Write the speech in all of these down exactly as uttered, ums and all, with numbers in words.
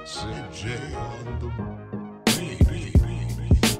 C J on the beat, beat, beat, beat.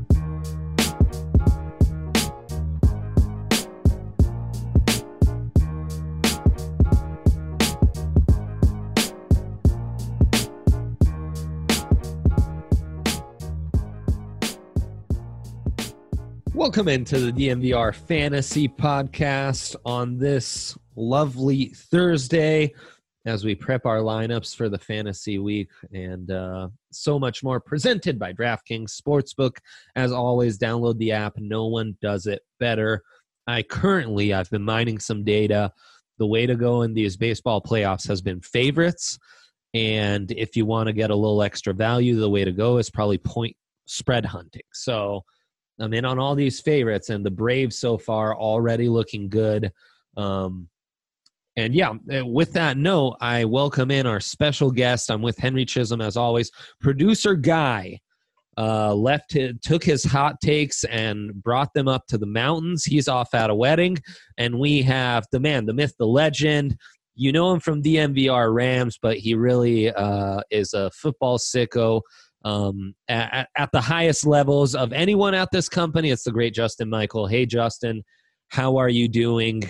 Welcome into the D M V R Fantasy Podcast on this lovely Thursday as we prep our lineups for the fantasy week and uh, so much more, presented by DraftKings Sportsbook. As always, download the app. No one does it better. I currently, I've been mining some data. The way to go in these baseball playoffs has been favorites. And if you want to get a little extra value, the way to go is probably point spread hunting. So I'm in on all these favorites, and the Braves so far already looking good. Um, and yeah, with that note, I welcome in our special guest. I'm with Henry Chisholm, as always. Producer Guy uh, left his, took his hot takes and brought them up to the mountains. He's off at a wedding, and we have the man, the myth, the legend. You know him from D M V R Rams, but he really uh, is a football sicko. Um, at, at the highest levels of anyone at this company. It's the great Justin Michael. Hey, Justin, how are you doing?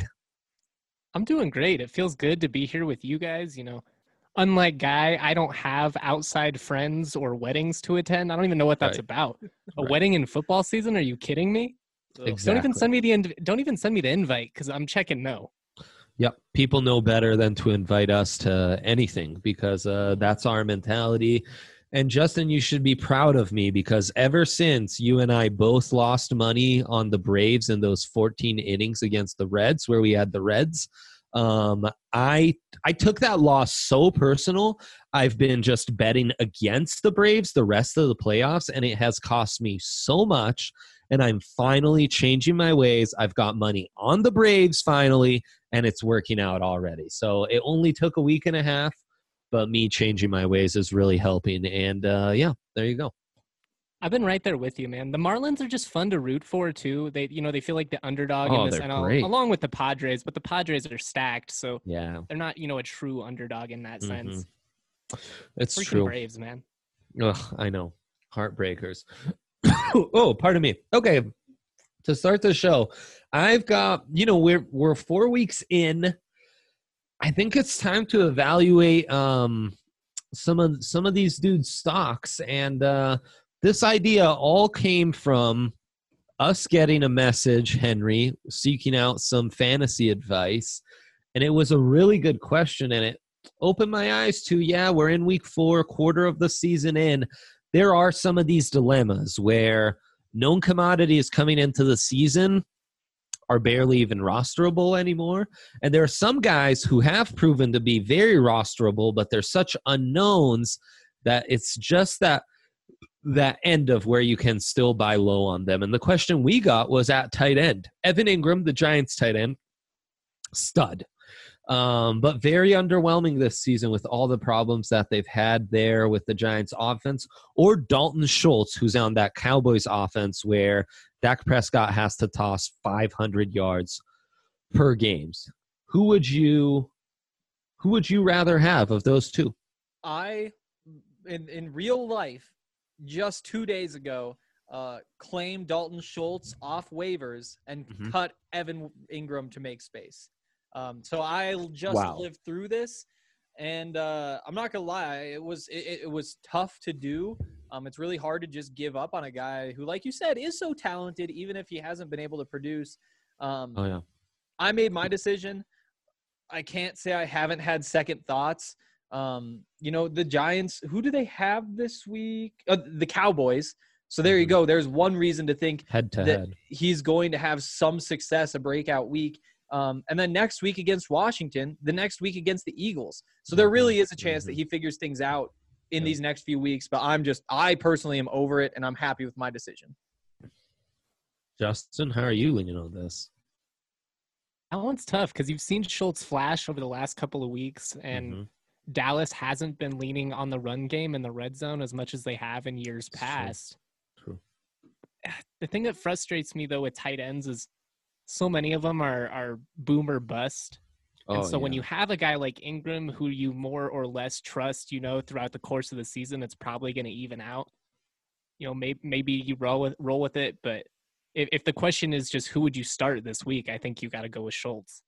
I'm doing great. It feels good to be here with you guys. You know, unlike Guy, I don't have outside friends or weddings to attend. I don't even know what that's Right. about. A Right. wedding in football season? Are you kidding me? Exactly. Don't even send me the inv- don't even send me the invite because I'm checking no. Yep. People know better than to invite us to anything because uh, that's our mentality. And Justin, you should be proud of me because ever since you and I both lost money on the Braves in those fourteen innings against the Reds, where we had the Reds, um, I I took that loss so personal. I've been just betting against the Braves the rest of the playoffs, and it has cost me so much. And I'm finally changing my ways. I've got money on the Braves finally, and it's working out already. So it only took a week and a half. But me changing my ways is really helping. And, uh, yeah, there you go. I've been right there with you, man. The Marlins are just fun to root for, too. They, you know, they feel like the underdog Oh, in this they're N L, great. along with the Padres, but the Padres are stacked, so Yeah. they're not, you know, a true underdog in that Mm-hmm. sense. It's Freaking true. Braves, man. Ugh, I know. Heartbreakers. Oh, pardon me. Okay. To start the show, I've got, you know, we're we're four weeks in. I think it's time to evaluate um, some of some of these dudes' stocks, and uh, this idea all came from us getting a message, Henry, seeking out some fantasy advice, and it was a really good question, and it opened my eyes to, yeah, we're in week four, quarter of the season in. There are some of these dilemmas where known commodities coming into the season are barely even rosterable anymore. And there are some guys who have proven to be very rosterable, but they're such unknowns that it's just that that end of where you can still buy low on them. And the question we got was at tight end. Evan Ingram, the Giants tight end, stud. Um, but very underwhelming this season with all the problems that they've had there with the Giants offense, or Dalton Schultz, who's on that Cowboys offense where Dak Prescott has to toss five hundred yards per games. Who would you, who would you rather have of those two? I, in, in real life, just two days ago, uh, claimed Dalton Schultz off waivers and Mhm. cut Evan Ingram to make space. Um, so I just Wow. lived through this, and uh, I'm not gonna lie, it was it, it was tough to do. Um, it's really hard to just give up on a guy who, like you said, is so talented, even if he hasn't been able to produce. Um, Oh, yeah. I made my decision. I can't say I haven't had second thoughts. Um, you know, the Giants, who do they have this week? Uh, the Cowboys. So there you Mhm. go. There's one reason to think Head to that head. he's going to have some success, a breakout week. Um, and then next week against Washington, the next week against the Eagles. So there really is a chance that he figures things out in Yeah. these next few weeks. But I'm just, I personally am over it, and I'm happy with my decision. Justin, how are you leaning on this? That one's tough because you've seen Schultz flash over the last couple of weeks, and Mhm. Dallas hasn't been leaning on the run game in the red zone as much as they have in years It's true. past. True. The thing that frustrates me, though, with tight ends is so many of them are, are boom or bust. Oh, and so when yeah. you have a guy like Ingram who you more or less trust, you know, throughout the course of the season, it's probably going to even out. You know, maybe maybe you roll with roll with it, but if, if the question is just who would you start this week, I think you got to go with Schultz.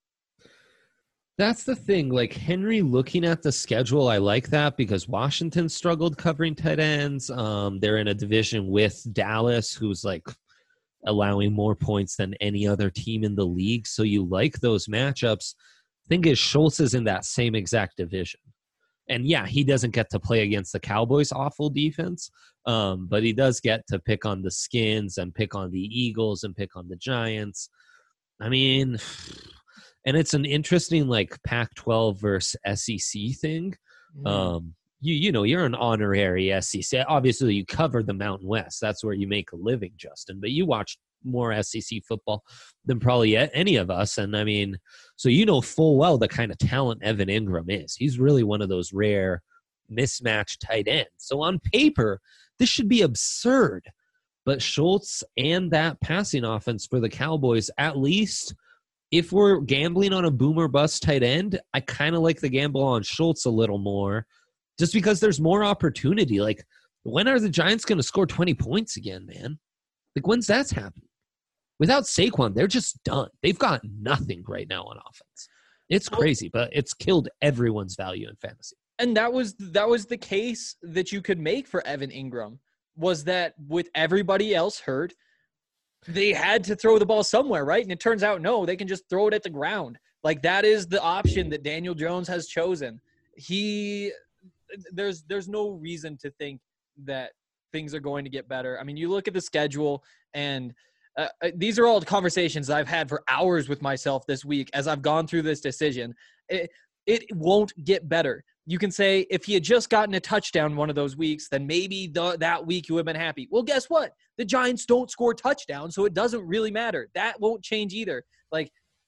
That's the thing. Like Henry, looking at the schedule, I like that because Washington struggled covering tight ends. Um, they're in a division with Dallas, who's like allowing more points than any other team in the league. So you like those matchups. Thing is, Schultz is in that same exact division. And yeah, he doesn't get to play against the Cowboys' awful defense, um, but he does get to pick on the Skins and pick on the Eagles and pick on the Giants. I mean, and it's an interesting like Pac twelve versus S E C thing. Mm. Um, you you know, you're an honorary S E C. Obviously, you cover the Mountain West. That's where you make a living, Justin. But you watch more S E C football than probably any of us. And I mean, so you know full well the kind of talent Evan Ingram is. He's really one of those rare mismatched tight ends. So on paper, this should be absurd. But Schultz and that passing offense for the Cowboys, at least if we're gambling on a boomer bust tight end, I kind of like the gamble on Schultz a little more just because there's more opportunity. Like, when are the Giants going to score twenty points again, man? Like, when's that's happening? Without Saquon, they're just done. They've got nothing right now on offense. It's crazy, but it's killed everyone's value in fantasy. And that was that was the case that you could make for Evan Ingram, was that with everybody else hurt, they had to throw the ball somewhere, right? And it turns out, no, they can just throw it at the ground. Like, that is the option that Daniel Jones has chosen. He there's there's no reason to think that things are going to get better. I mean, you look at the schedule, and uh, these are all conversations I've had for hours with myself this week as I've gone through this decision. It, it won't get better. You can say if he had just gotten a touchdown one of those weeks, then maybe the, that week you would have been happy. Well, guess what? The Giants don't score touchdowns, so it doesn't really matter. That won't change either. Like,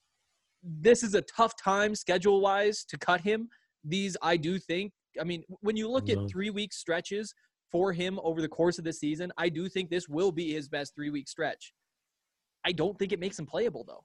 this is a tough time schedule-wise to cut him. These, I do think, I mean, when you look at three-week stretches for him over the course of the season, I do think this will be his best three-week stretch. I don't think it makes him playable, though.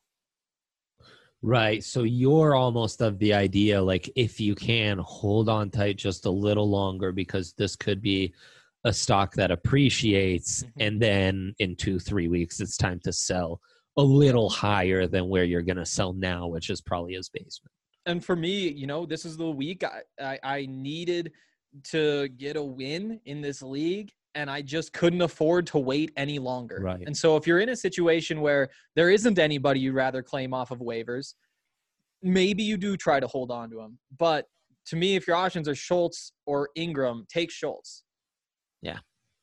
Right. So you're almost of the idea, like, if you can hold on tight just a little longer, because this could be a stock that appreciates, mm-hmm. and then in two, three weeks, it's time to sell a little higher than where you're going to sell now, which is probably his basement. And for me, you know, this is the week I, I, I needed to get a win in this league, and I just couldn't afford to wait any longer. Right. And so if you're in a situation where there isn't anybody you'd rather claim off of waivers, maybe you do try to hold on to him. But to me, if your options are Schultz or Ingram, take Schultz. Yeah.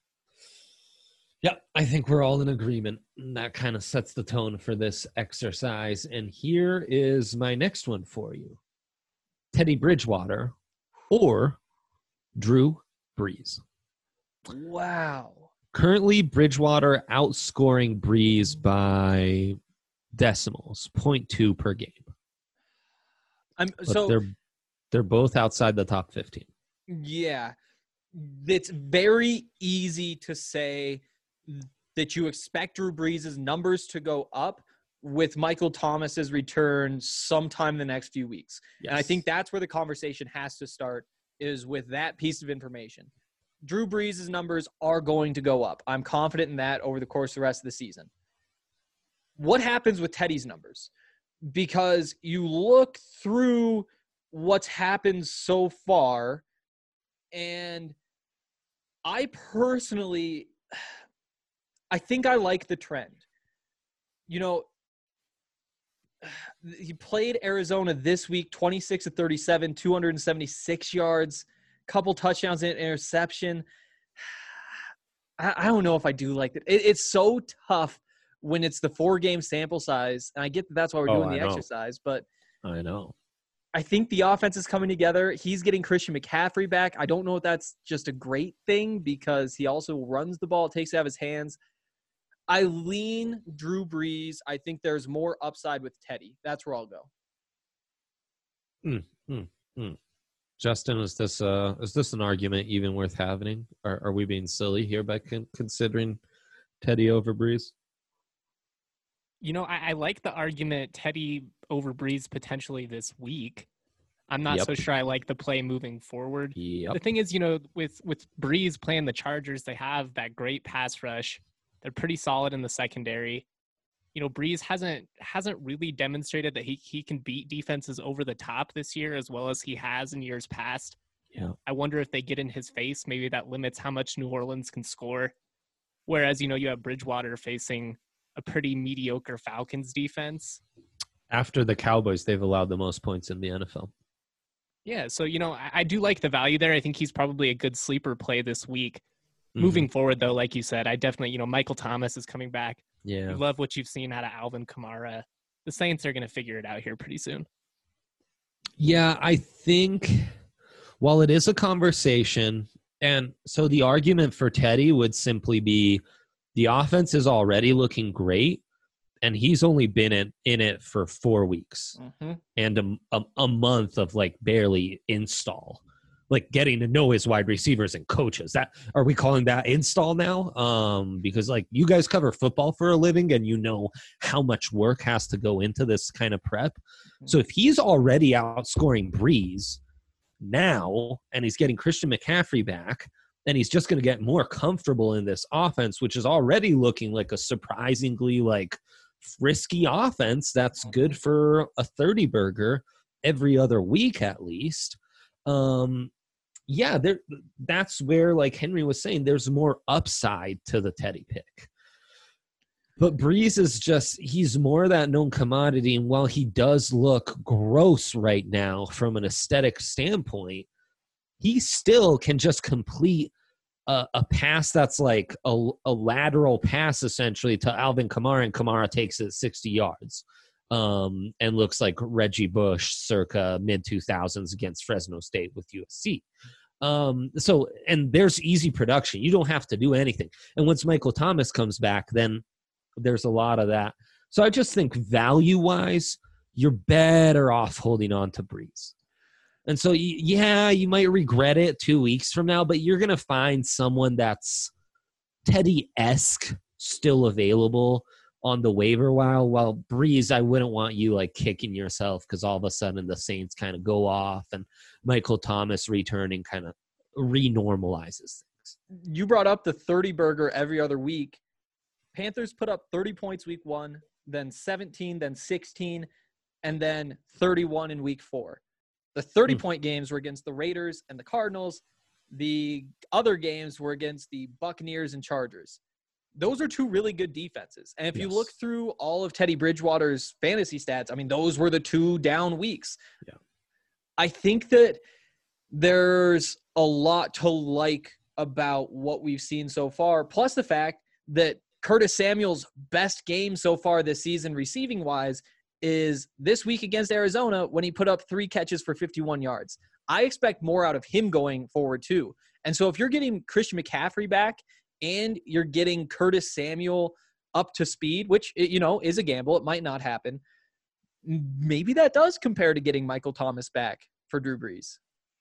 Yeah, I think we're all in agreement. And that kind of sets the tone for this exercise. And here is my next one for you. Teddy Bridgewater or Drew Brees. Wow. Currently, Bridgewater outscoring Brees by decimals, zero point two per game. I'm But so they're they're both outside the top fifteen. Yeah. It's very easy to say that you expect Drew Brees' numbers to go up with Michael Thomas's return sometime in the next few weeks. Yes. And I think that's where the conversation has to start, is with that piece of information. Drew Brees' numbers are going to go up. I'm confident in that over the course of the rest of the season. What happens with Teddy's numbers? Because you look through what's happened so far, and I personally, I think I like the trend. You know, he played Arizona this week, twenty-six of thirty-seven, two hundred seventy-six yards, couple touchdowns and interception. I, I don't know if I do like it. it. It's so tough when it's the four-game sample size, and I get that that's why we're Oh, doing I the know. exercise, but I know. I think the offense is coming together. He's getting Christian McCaffrey back. I don't know if that's just a great thing because he also runs the ball, takes it out of his hands. I lean Drew Brees. I think there's more upside with Teddy. That's where I'll go. Mm, mm, mm. Justin, is this uh is this an argument even worth having? Are are we being silly here by con- considering Teddy over Brees? You know, I, I like the argument Teddy over Breeze potentially this week. I'm not Yep. so sure I like the play moving forward. Yep. The thing is, you know, with with Breeze playing the Chargers, they have that great pass rush. They're pretty solid in the secondary. You know, Breeze hasn't hasn't really demonstrated that he he can beat defenses over the top this year as well as he has in years past. Yeah. I wonder if they get in his face, maybe that limits how much New Orleans can score. Whereas, you know, you have Bridgewater facing a pretty mediocre Falcons defense. After the Cowboys, they've allowed the most points in the N F L. Yeah, so, you know, I, I do like the value there. I think he's probably a good sleeper play this week. Mhm. Moving forward, though, like you said, I definitely, you know, Michael Thomas is coming back. Yeah. You love what you've seen out of Alvin Kamara. The Saints are going to figure it out here pretty soon. Yeah, I think while it is a conversation, and so the argument for Teddy would simply be the offense is already looking great, and he's only been in, in it for four weeks Mm-hmm. and a, a, a month of like barely install, like getting to know his wide receivers and coaches. That are we calling that install now? Um, because like you guys cover football for a living and you know how much work has to go into this kind of prep. So if he's already outscoring Breeze now and he's getting Christian McCaffrey back, then he's just going to get more comfortable in this offense, which is already looking like a surprisingly like frisky offense that's good for a thirty burger every other week at least. Um, yeah, there. That's where, like Henry was saying, there's more upside to the Teddy pick. But Breeze is just, he's more that known commodity. And while he does look gross right now from an aesthetic standpoint, he still can just complete a, a pass that's like a, a lateral pass essentially to Alvin Kamara, and Kamara takes it sixty yards um, and looks like Reggie Bush circa mid two thousands against Fresno State with U S C. Um, so, and there's easy production. You don't have to do anything. And once Michael Thomas comes back, then there's a lot of that. So I just think value-wise, you're better off holding on to Breeze. And so, yeah, you might regret it two weeks from now, but you're going to find someone that's Teddy-esque still available on the waiver wire. While Breeze, I wouldn't want you like kicking yourself because all of a sudden the Saints kind of go off and Michael Thomas returning kind of renormalizes things. You brought up the thirty burger every other week. Panthers put up thirty points week one, then seventeen, then sixteen, and then thirty-one in week four. The thirty-point games were against the Raiders and the Cardinals. The other games were against the Buccaneers and Chargers. Those are two really good defenses. And if Yes. you look through all of Teddy Bridgewater's fantasy stats, I mean, those were the two down weeks. Yeah. I think that there's a lot to like about what we've seen so far, plus the fact that Curtis Samuel's best game so far this season receiving-wise is this week against Arizona when he put up three catches for fifty-one yards. I expect more out of him going forward too. And so if you're getting Christian McCaffrey back and you're getting Curtis Samuel up to speed, which, you know, is a gamble, it might not happen, maybe that does compare to getting Michael Thomas back for Drew Brees.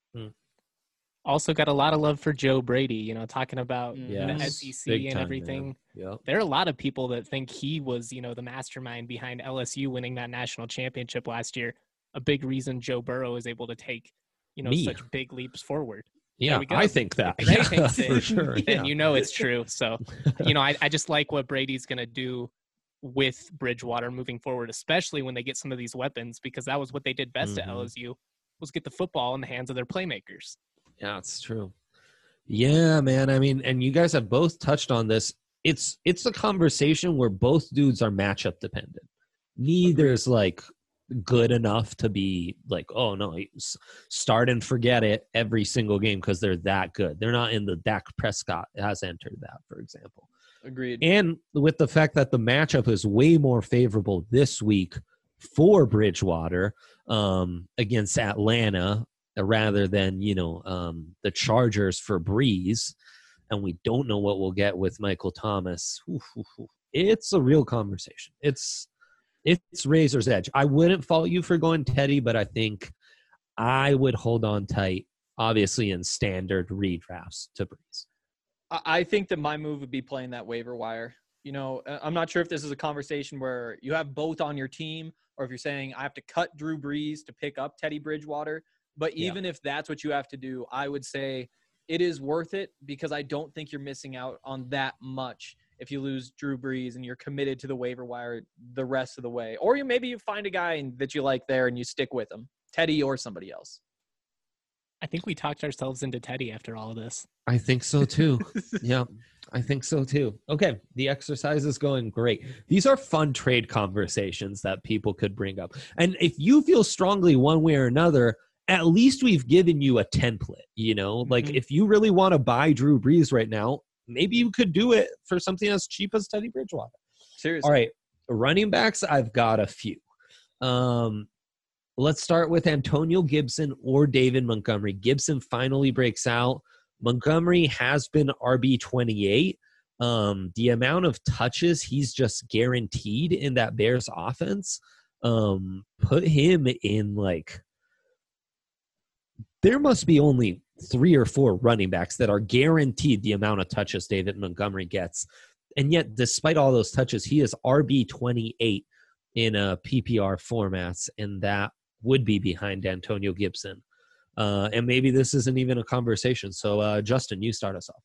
Also got a lot of love for Joe Brady, you know, talking about Yes. the S E C Big and time, everything. man. Yep. There are a lot of people that think he was, you know, the mastermind behind L S U winning that national championship last year. A big reason Joe Burrow is able to take, you know, Me. such big leaps forward. Yeah, we go. I think that. If Ray Yeah, thinks it, for sure. then Yeah. you know it's true. So, you know, I, I just like what Brady's going to do with Bridgewater moving forward, especially when they get some of these weapons, because that was what they did best at Mhm. L S U, was get the football in the hands of their playmakers. Yeah, it's true. Yeah, man. I mean, and you guys have both touched on this. It's it's a conversation where both dudes are matchup dependent. Neither is like good enough to be like, oh no, s- start and forget it every single game because they're that good. They're not in the Dak Prescott has entered that, for example. Agreed. And with the fact that the matchup is way more favorable this week for Bridgewater um, against Atlanta uh, rather than, you know, um, the Chargers for Breeze, and we don't know what we'll get with Michael Thomas. Oof, oof, oof. It's a real conversation. It's it's razor's edge. I wouldn't fault you for going Teddy, but I think I would hold on tight, obviously in standard redrafts to Breeze. I I think that my move would be playing that waiver wire. You know, uh, I'm not sure if this is a conversation where you have both on your team or if you're saying I have to cut Drew Brees to pick up Teddy Bridgewater. But even yeah. if that's what you have to do, I would say it is worth it because I don't think you're missing out on that much if you lose Drew Brees and you're committed to the waiver wire the rest of the way. Or you maybe you find a guy that you like there and you stick with him, Teddy or somebody else. I think we talked ourselves into Teddy after all of this. I think so too. Yeah, I think so too. Okay, the exercise is going great. These are fun trade conversations that people could bring up. And if you feel strongly one way or another, at least we've given you a template, you know? Like, mm-hmm. if you really want to buy Drew Brees right now, maybe you could do it for something as cheap as Teddy Bridgewater. Seriously. All right, running backs, I've got a few. Um, let's start with Antonio Gibson or David Montgomery. Gibson finally breaks out. Montgomery has been R B twenty-eight. Um, the amount of touches he's just guaranteed in that Bears offense, um, put him in like – there must be only three or four running backs that are guaranteed the amount of touches David Montgomery gets. And yet, despite all those touches, he is R B twenty-eight in a P P R formats, and that would be behind Antonio Gibson. Uh, and maybe this isn't even a conversation. So, uh, Justin, you start us off.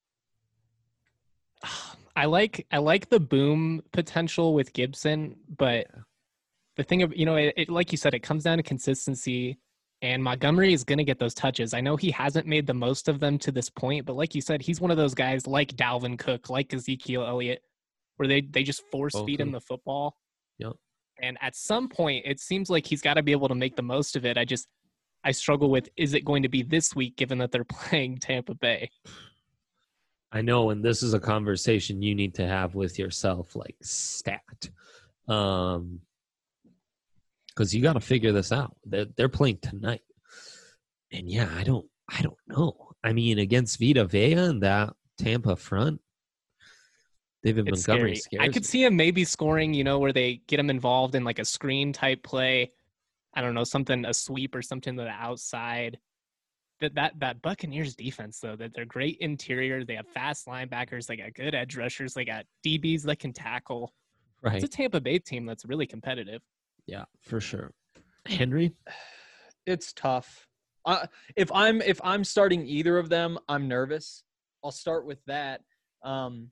I like I like the boom potential with Gibson, but the thing of, you know, it, it like you said, it comes down to consistency. And Montgomery is going to get those touches. I know he hasn't made the most of them to this point, but like you said, he's one of those guys like Dalvin Cook, like Ezekiel Elliott, where they, they just force feed okay. him the football. Yep. And at some point, it seems like he's got to be able to make the most of it. I just, I struggle with, is it going to be this week, given that they're playing Tampa Bay? I know, and this is a conversation you need to have with yourself, like stat. Um, Because you got to figure this out. They're, they're playing tonight, and yeah, I don't, I don't know. I mean, against Vita Vea and that Tampa front, David it's Montgomery scary. scares I could me. see him maybe scoring, you know, where they get him involved in like a screen type play. I don't know, something, a sweep or something to the outside. That that that Buccaneers defense, though, that they're great interior. They have fast linebackers. They got good edge rushers. They got D Bs that can tackle. Right. It's a Tampa Bay team that's really competitive. Yeah, for sure. Henry? It's tough. Uh, if I'm if I'm starting either of them, I'm nervous. I'll start with that. Um,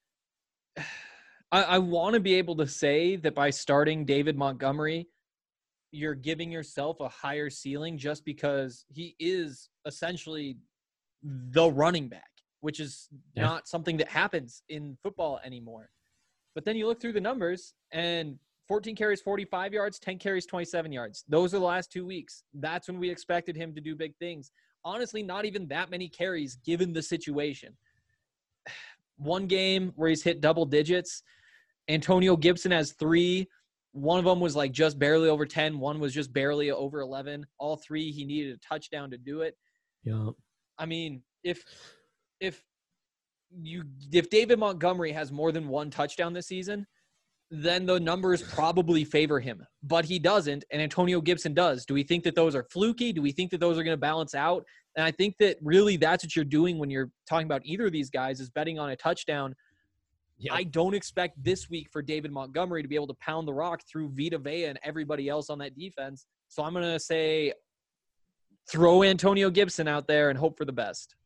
I, I want to be able to say that by starting David Montgomery, you're giving yourself a higher ceiling just because he is essentially the running back, which is yeah. not something that happens in football anymore. But then you look through the numbers and fourteen carries, forty-five yards, ten carries, twenty-seven yards. Those are the last two weeks. That's when we expected him to do big things. Honestly, not even that many carries given the situation. One game where he's hit double digits. Antonio Gibson has three. One of them was like just barely over ten. One was just barely over eleven. All three, he needed a touchdown to do it. Yeah. I mean, if if you if David Montgomery has more than one touchdown this season, then the numbers probably favor him. But he doesn't, and Antonio Gibson does. Do we think that those are fluky? Do we think that those are going to balance out? And I think that really that's what you're doing when you're talking about either of these guys is betting on a touchdown. Yep. I don't expect this week for David Montgomery to be able to pound the rock through Vita Vea and everybody else on that defense. So I'm going to say throw Antonio Gibson out there and hope for the best.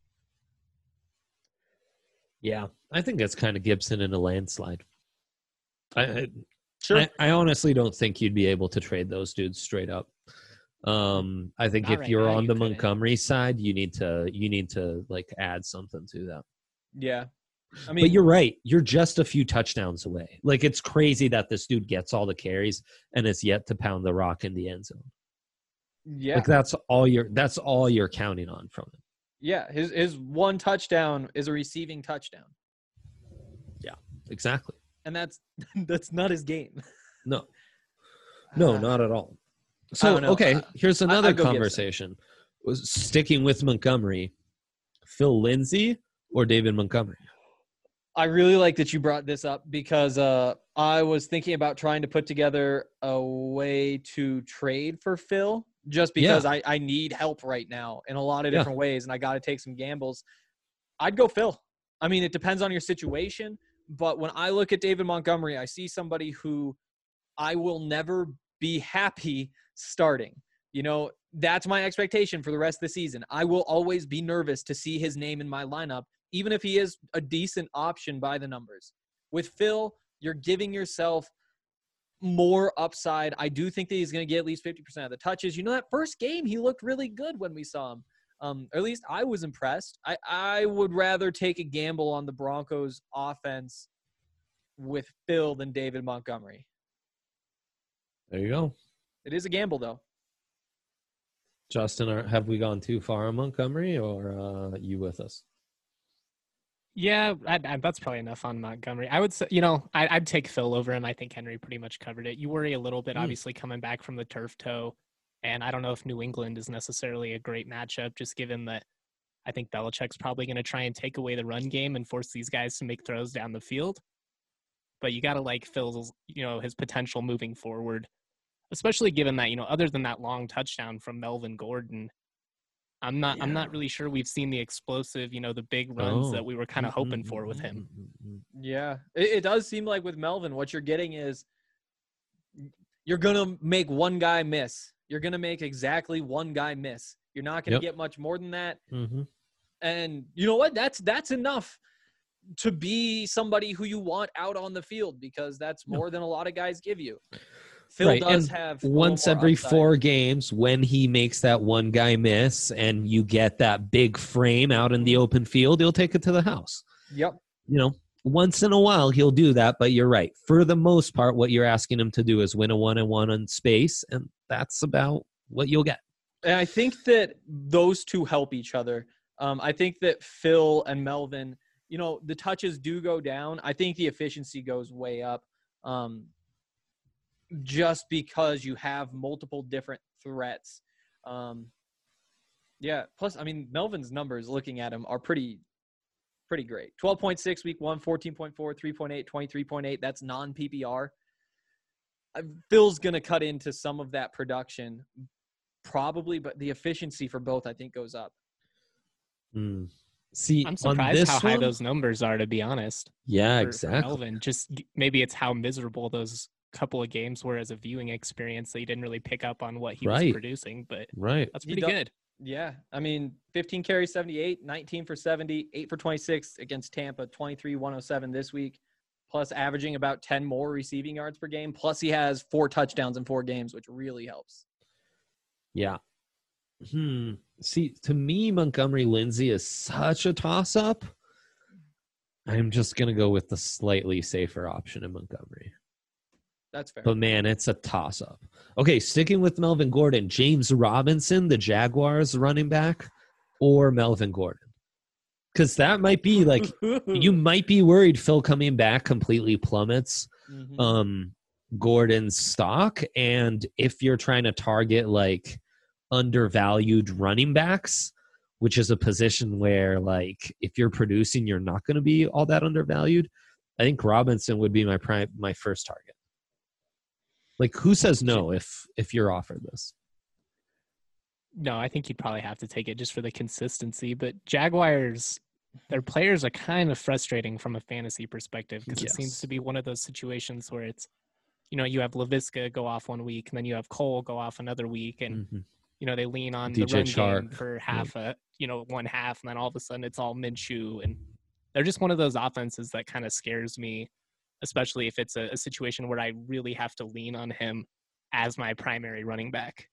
Yeah, I think that's kind of Gibson in a landslide. I, I Sure. I, I honestly don't think you'd be able to trade those dudes straight up. Um, I think Not if right you're now, on you the couldn't. Montgomery side, you need to you need to like add something to that. Yeah. I mean, But you're right. You're just a few touchdowns away. Like, it's crazy that this dude gets all the carries and is yet to pound the rock in the end zone. yeah. Like, that's all you're that's all you're counting on from him. Yeah. His his one touchdown is a receiving touchdown. Yeah, exactly. And that's that's not his game. No. No, Uh, not at all. I So, don't know. okay, Uh, here's I- another I'd go Gibson. conversation. Was sticking with Montgomery, Phil Lindsay or David Montgomery? I really like that you brought this up because uh, I was thinking about trying to put together a way to trade for Phil just because Yeah. I, I need help right now in a lot of Yeah. different ways, and I got to take some gambles. I'd go Phil. I mean, it depends on your situation, But when I look at David Montgomery, I see somebody who I will never be happy starting. You know, that's my expectation for the rest of the season. I will always be nervous to see his name in my lineup, even if he is a decent option by the numbers. With Phil, you're giving yourself more upside. I do think that he's going to get at least fifty percent of the touches. You know, that first game, he looked really good when we saw him. Um, or at least I was impressed. I, I would rather take a gamble on the Broncos offense with Phil than David Montgomery. There you go. It is a gamble, though. Justin, are, have we gone too far on Montgomery, or uh, you with us? Yeah, I, I, that's probably enough on Montgomery. I would say, you know, I, I'd take Phil over him. I think Henry pretty much covered it. You worry a little bit, Mm. obviously, coming back from the turf toe. And I don't know if New England is necessarily a great matchup, just given that I think Belichick's probably going to try and take away the run game and force these guys to make throws down the field. But you got to like Phil's, you know, his potential moving forward, especially given that, you know, other than that long touchdown from Melvin Gordon, I'm not, I'm Yeah. not really sure we've seen the explosive, you know, the big runs Oh. that we were kind of hoping Mm, for mm, with mm, him. mm, mm, Yeah, it, it does seem like with Melvin, what you're getting is you're going to make one guy miss. You're going to make exactly one guy miss. You're not going to Yep. get much more than that. mm. Mhm. And you know what? That's that's enough to be somebody who you want out on the field, because that's Yeah. more than a lot of guys give you. Phil Right, does and have a little Once more every upside. four games, when he makes that one guy miss and you get that big frame out in the open field, he'll take it to the house. Yep. You know, once in a while he'll do that, but you're right. For the most part, what you're asking him to do is win a one-on-one on space, and that's about what you'll get. And I think that those two help each other. Um, I think that Phil and Melvin, you know, the touches do go down. I think the efficiency goes way up, um, just because you have multiple different threats. Um, yeah. Plus, I mean, Melvin's numbers, looking at him, are pretty, pretty great. twelve point six week one, fourteen point four, three point eight, twenty-three point eight. That's non-P P R. Uh, Phil's going to cut into some of that production, probably, but the efficiency for both, I think, goes up. Hmm. See, I'm on surprised this how high one- those numbers are, to be honest. Yeah, for- for exactly. Melvin. Just g- maybe it's how miserable those couple of games were as a viewing experience that you didn't really pick up on what he Right. was producing, but Right. that's He pretty do- good. Yeah. I mean, fifteen carries, seventy-eight, nineteen for seventy, eight for twenty-six against Tampa, twenty-three, one oh seven this week, plus averaging about ten more receiving yards per game. Plus he has four touchdowns in four games, which really helps. Yeah. Hmm. See, to me, Montgomery Lindsay is such a toss-up. I'm just going to go with the slightly safer option in Montgomery. That's fair. But, man, it's a toss-up. Okay, sticking with Melvin Gordon, James Robinson, the Jaguars running back, or Melvin Gordon? Because that might be, like, you might be worried Phil coming back completely plummets Mhm. um, Gordon's stock. And if you're trying to target, like, undervalued running backs, which is a position where, like, if you're producing, you're not going to be all that undervalued, I think Robinson would be my prime, my first target. Like, who says no if if you're offered this? No, I think you'd probably have to take it just for the consistency. But Jaguars, their players are kind of frustrating from a fantasy perspective, because it seems Yes. to be one of those situations where it's, you know, you have LaVisca go off one week, and then you have Cole go off another week, and Mhm. you know, they lean on D J the run Chark. game for half a, you know, one half, and then all of a sudden it's all Minshew, and they're just one of those offenses that kind of scares me, especially if it's a, a situation where I really have to lean on him as my primary running back.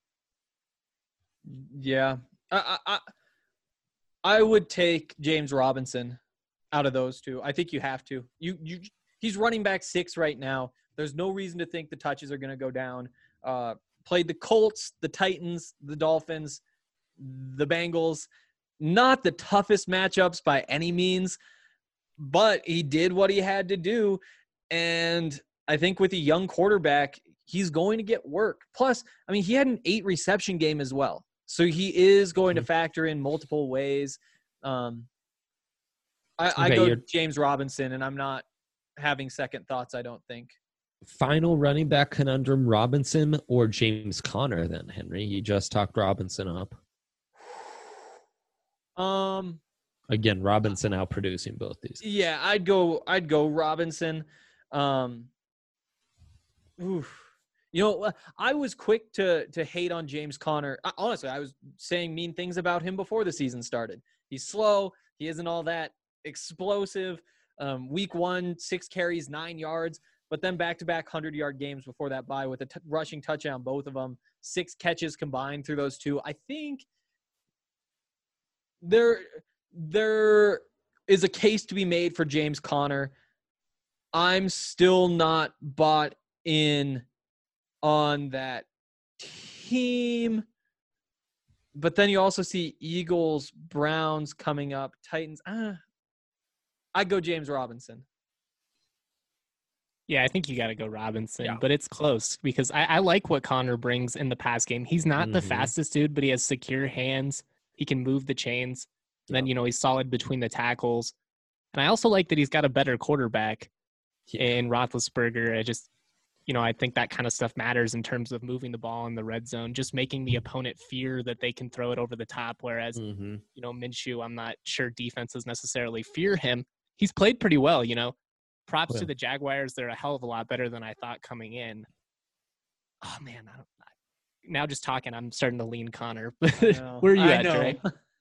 Yeah. I, I, I I would take James Robinson out of those two. I think you have to. You you he's running back six right now. There's no reason to think the touches are going to go down. Uh, played the Colts, the Titans, the Dolphins, the Bengals. Not the toughest matchups by any means, but he did what he had to do. And I think with a young quarterback, he's going to get work. Plus, I mean, he had an eight reception game as well. So he is going to factor in multiple ways. Um, I, I Okay, go you're- James Robinson, and I'm not having second thoughts, I don't think. Final running back conundrum: Robinson or James Conner? Then Henry, you just talked Robinson up. Um, Again, Robinson out producing both these. Yeah, I'd go. I'd go Robinson. Um, oof. You know, I was quick to to hate on James Conner. I, honestly, I was saying mean things about him before the season started. He's slow. He isn't all that explosive. Um, week one, six carries, nine yards, but then back-to-back hundred-yard games before that bye with a t- rushing touchdown, both of them, six catches combined through those two. I think there there is a case to be made for James Conner. I'm still not bought in on that team. But then you also see Eagles, Browns coming up, Titans. Ah, I'd go James Robinson. Yeah, I think you got to go Robinson, Yeah. but it's close because I, I like what Connor brings in the pass game. He's not the Mhm. fastest dude, but he has secure hands. He can move the chains. And then, you know, he's solid between the tackles. And I also like that he's got a better quarterback Yeah. in Roethlisberger. I just, you know, I think that kind of stuff matters in terms of moving the ball in the red zone, just making the opponent fear that they can throw it over the top. Whereas, Mhm. you know, Minshew, I'm not sure defenses necessarily fear him. He's played pretty well, you know. Props Yeah. to the Jaguars. They're a hell of a lot better than I thought coming in. Oh, man. I don't, now just talking, I'm starting to lean Connor. know. Where are you I at, know. Dre?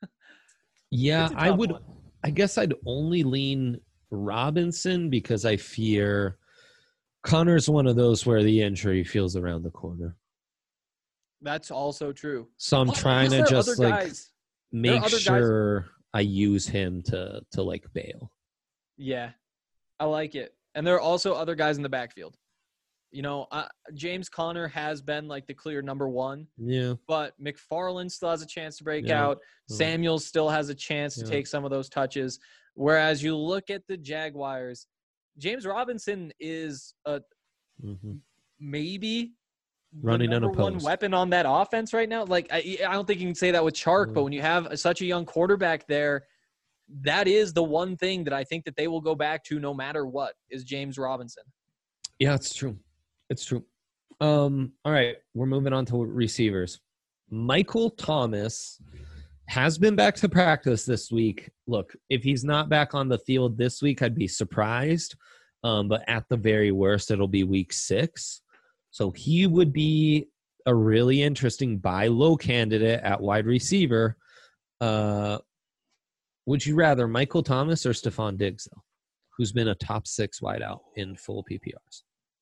Yeah, It's a I tough would. one. I guess I'd only lean Robinson because I fear Connor's one of those where the injury feels around the corner. That's also true. So I'm Oh, trying there to are just other like guys. make other guys- sure I use him to to like bail. Yeah, I like it. And there are also other guys in the backfield. You know, uh, James Conner has been like the clear number one, Yeah. but McFarland still has a chance to break Yeah. out. Yeah. Samuels still has a chance to Yeah. take some of those touches. Whereas you look at the Jaguars, James Robinson is a hmm maybe the Running number one unopposed. weapon on that offense right now. Like I, I don't think you can say that with Chark, but Mm. when you have such a young quarterback there, that is the one thing that I think that they will go back to no matter what is James Robinson. Yeah, it's true. It's true. Um, all right, we're moving on to receivers. Michael Thomas has been back to practice this week. Look, if he's not back on the field this week, I'd be surprised. Um, but at the very worst, it'll be week six. So he would be a really interesting buy low candidate at wide receiver. Uh, would you rather Michael Thomas or Stephon Diggs, though, who's been a top six wideout in full P P Rs?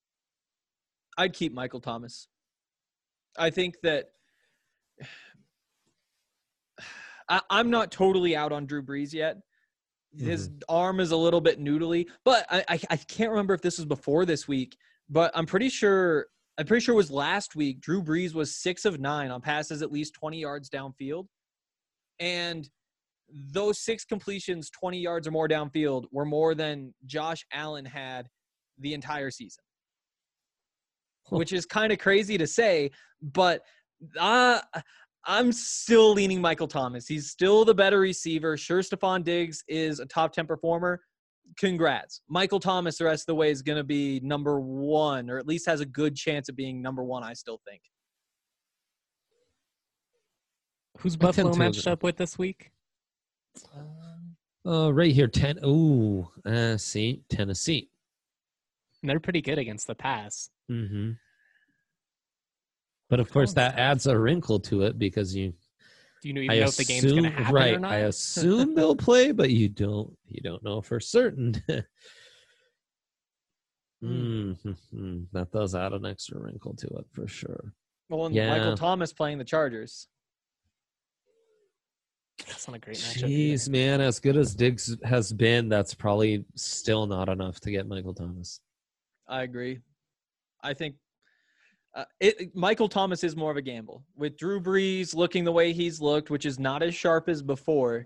I'd keep Michael Thomas. I think that I, I'm not totally out on Drew Brees yet. His arm is a little bit noodly, but I, I I can't remember if this was before this week, but I'm pretty sure I'm pretty sure it was last week. Drew Brees was six of nine on passes at least twenty yards downfield, and those six completions, twenty yards or more downfield, were more than Josh Allen had the entire season. Which is kind of crazy to say, but uh, I'm still leaning Michael Thomas. He's still the better receiver. Sure, Stephon Diggs is a top ten performer. Congrats. Michael Thomas the rest of the way is going to be number one, or at least has a good chance of being number one, I still think. Who's I tend Buffalo to matched agree. up with this week? Uh, right here, ten. Ooh, uh, see, Tennessee. And they're pretty good against the pass. Mm-hmm. But of course, Sounds that tough. adds a wrinkle to it because you. Do you know, even I know if the game's going to assume- happen right, or not? I assume they'll play, but you don't. You don't know for certain. mm-hmm. That does add an extra wrinkle to it for sure. Well, and Yeah. Michael Thomas playing the Chargers. That's not a great matchup. either. Jeez, man, as good as Diggs has been, that's probably still not enough to get Michael Thomas. I agree. I think uh, it, Michael Thomas is more of a gamble. With Drew Brees looking the way he's looked, which is not as sharp as before,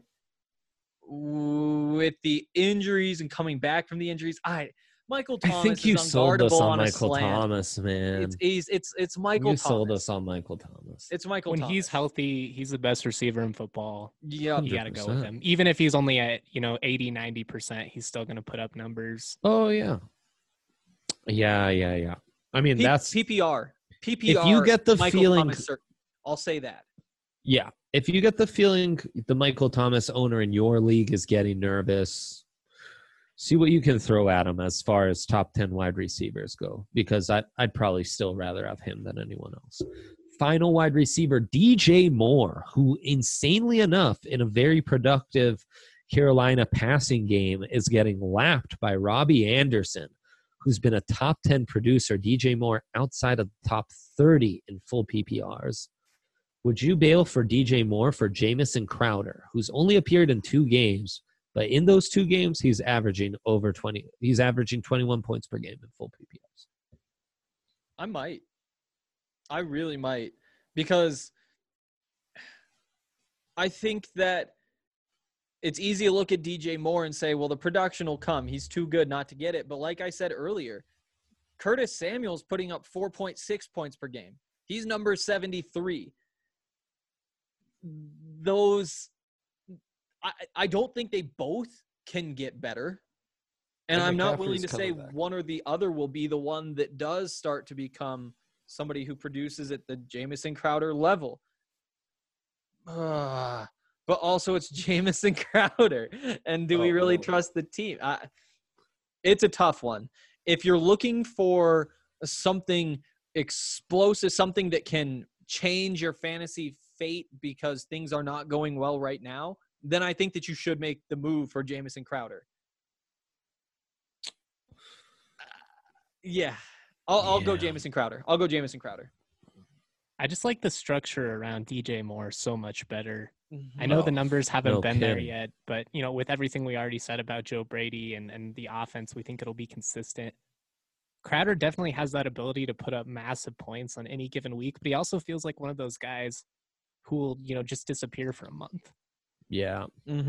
with the injuries and coming back from the injuries, I Michael I Thomas think you is sold us unguardable on on a Michael slant. Thomas, man. It's, he's, it's it's Michael you Thomas. sold us on Michael Thomas. It's Michael When Thomas. he's healthy, he's the best receiver in football. Yep. You got to go with one hundred percent. him. Even if he's only at, you know, eighty, ninety percent, he's still going to put up numbers. Oh yeah, yeah, yeah, yeah. I mean, P- that's P P R. P P R. if you get the Michael feeling, Thomas, cer- I'll say that. yeah. if you get the feeling the Michael Thomas owner in your league is getting nervous, see what you can throw at him as far as top ten wide receivers go, because I'd, I'd probably still rather have him than anyone else. Final wide receiver, D J Moore, who insanely enough in a very productive Carolina passing game is getting lapped by Robbie Anderson, who's been a top ten producer. D J Moore outside of the top thirty in full P P Rs. Would you bail for D J Moore for Jamison Crowder, who's only appeared in two games, but in those two games he's averaging over twenty. He's averaging twenty-one points per game in full P P Rs. I might. I really might, because I think that it's easy to look at D J Moore and say, well, the production will come. He's too good not to get it. But like I said earlier, Curtis Samuel's putting up four point six points per game. He's number seventy-three. Those, I, I don't think they both can get better. And I'm not willing to say one or the other will be the one that does start to become somebody who produces at the Jamison Crowder level. Uh, but also it's Jamison Crowder. And do we really trust the team? I, it's a tough one. If you're looking for something explosive, something that can change your fantasy fate because things are not going well right now, then I think that you should make the move for Jamison Crowder. Yeah. I'll, I'll yeah. go Jamison Crowder. I'll go Jamison Crowder. I just like the structure around D J Moore so much better. Mm-hmm. I know oh, the numbers haven't no been kidding. there yet, but you know, with everything we already said about Joe Brady and, and the offense, we think it'll be consistent. Crowder definitely has that ability to put up massive points on any given week, but he also feels like one of those guys who will, you know, just disappear for a month. Yeah.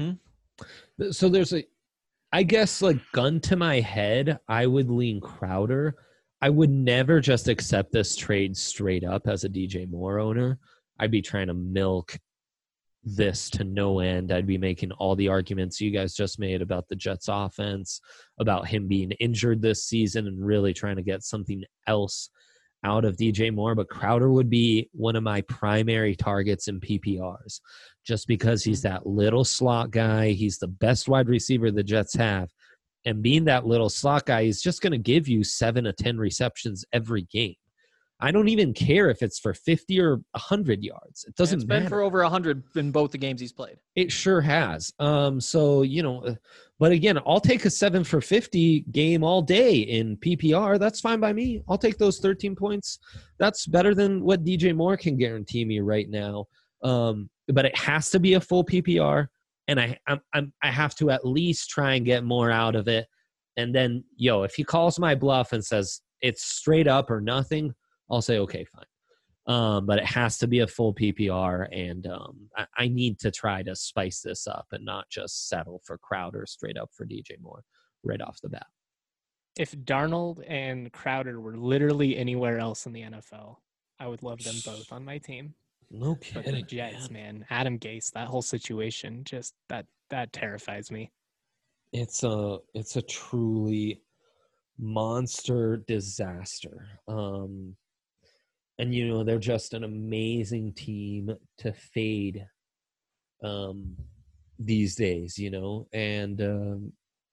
Mm-hmm. So there's a, I guess, like, gun to my head, I would lean Crowder. I would never just accept this trade straight up as a D J Moore owner. I'd be trying to milk this to no end. I'd be making all the arguments you guys just made about the Jets offense, about him being injured this season, and really trying to get something else out of D J Moore. But Crowder would be one of my primary targets in P P Rs, just because he's that little slot guy. He's the best wide receiver the Jets have. And being that little slot guy, he's just going to give you seven to ten receptions every game. I don't even care if it's for fifty or one hundred yards. It doesn't it's matter. It's been for over one hundred in both the games he's played. It sure has. Um, so, you know, but again, I'll take a seven for fifty game all day in P P R. That's fine by me. I'll take those thirteen points. That's better than what D J Moore can guarantee me right now. Um, but it has to be a full P P R. And I I'm, I'm, I have to at least try and get more out of it. And then, yo, if he calls my bluff and says it's straight up or nothing, I'll say, okay, fine. Um, but it has to be a full P P R, and um, I, I need to try to spice this up and not just settle for Crowder straight up for D J Moore right off the bat. If Darnold and Crowder were literally anywhere else in the N F L, I would love them both on my team. No But kidding, the Jets, man. man, Adam Gase, that whole situation, just that that terrifies me. It's a it's a truly monster disaster. Um, and you know, they're just an amazing team to fade um, these days. You know, and um,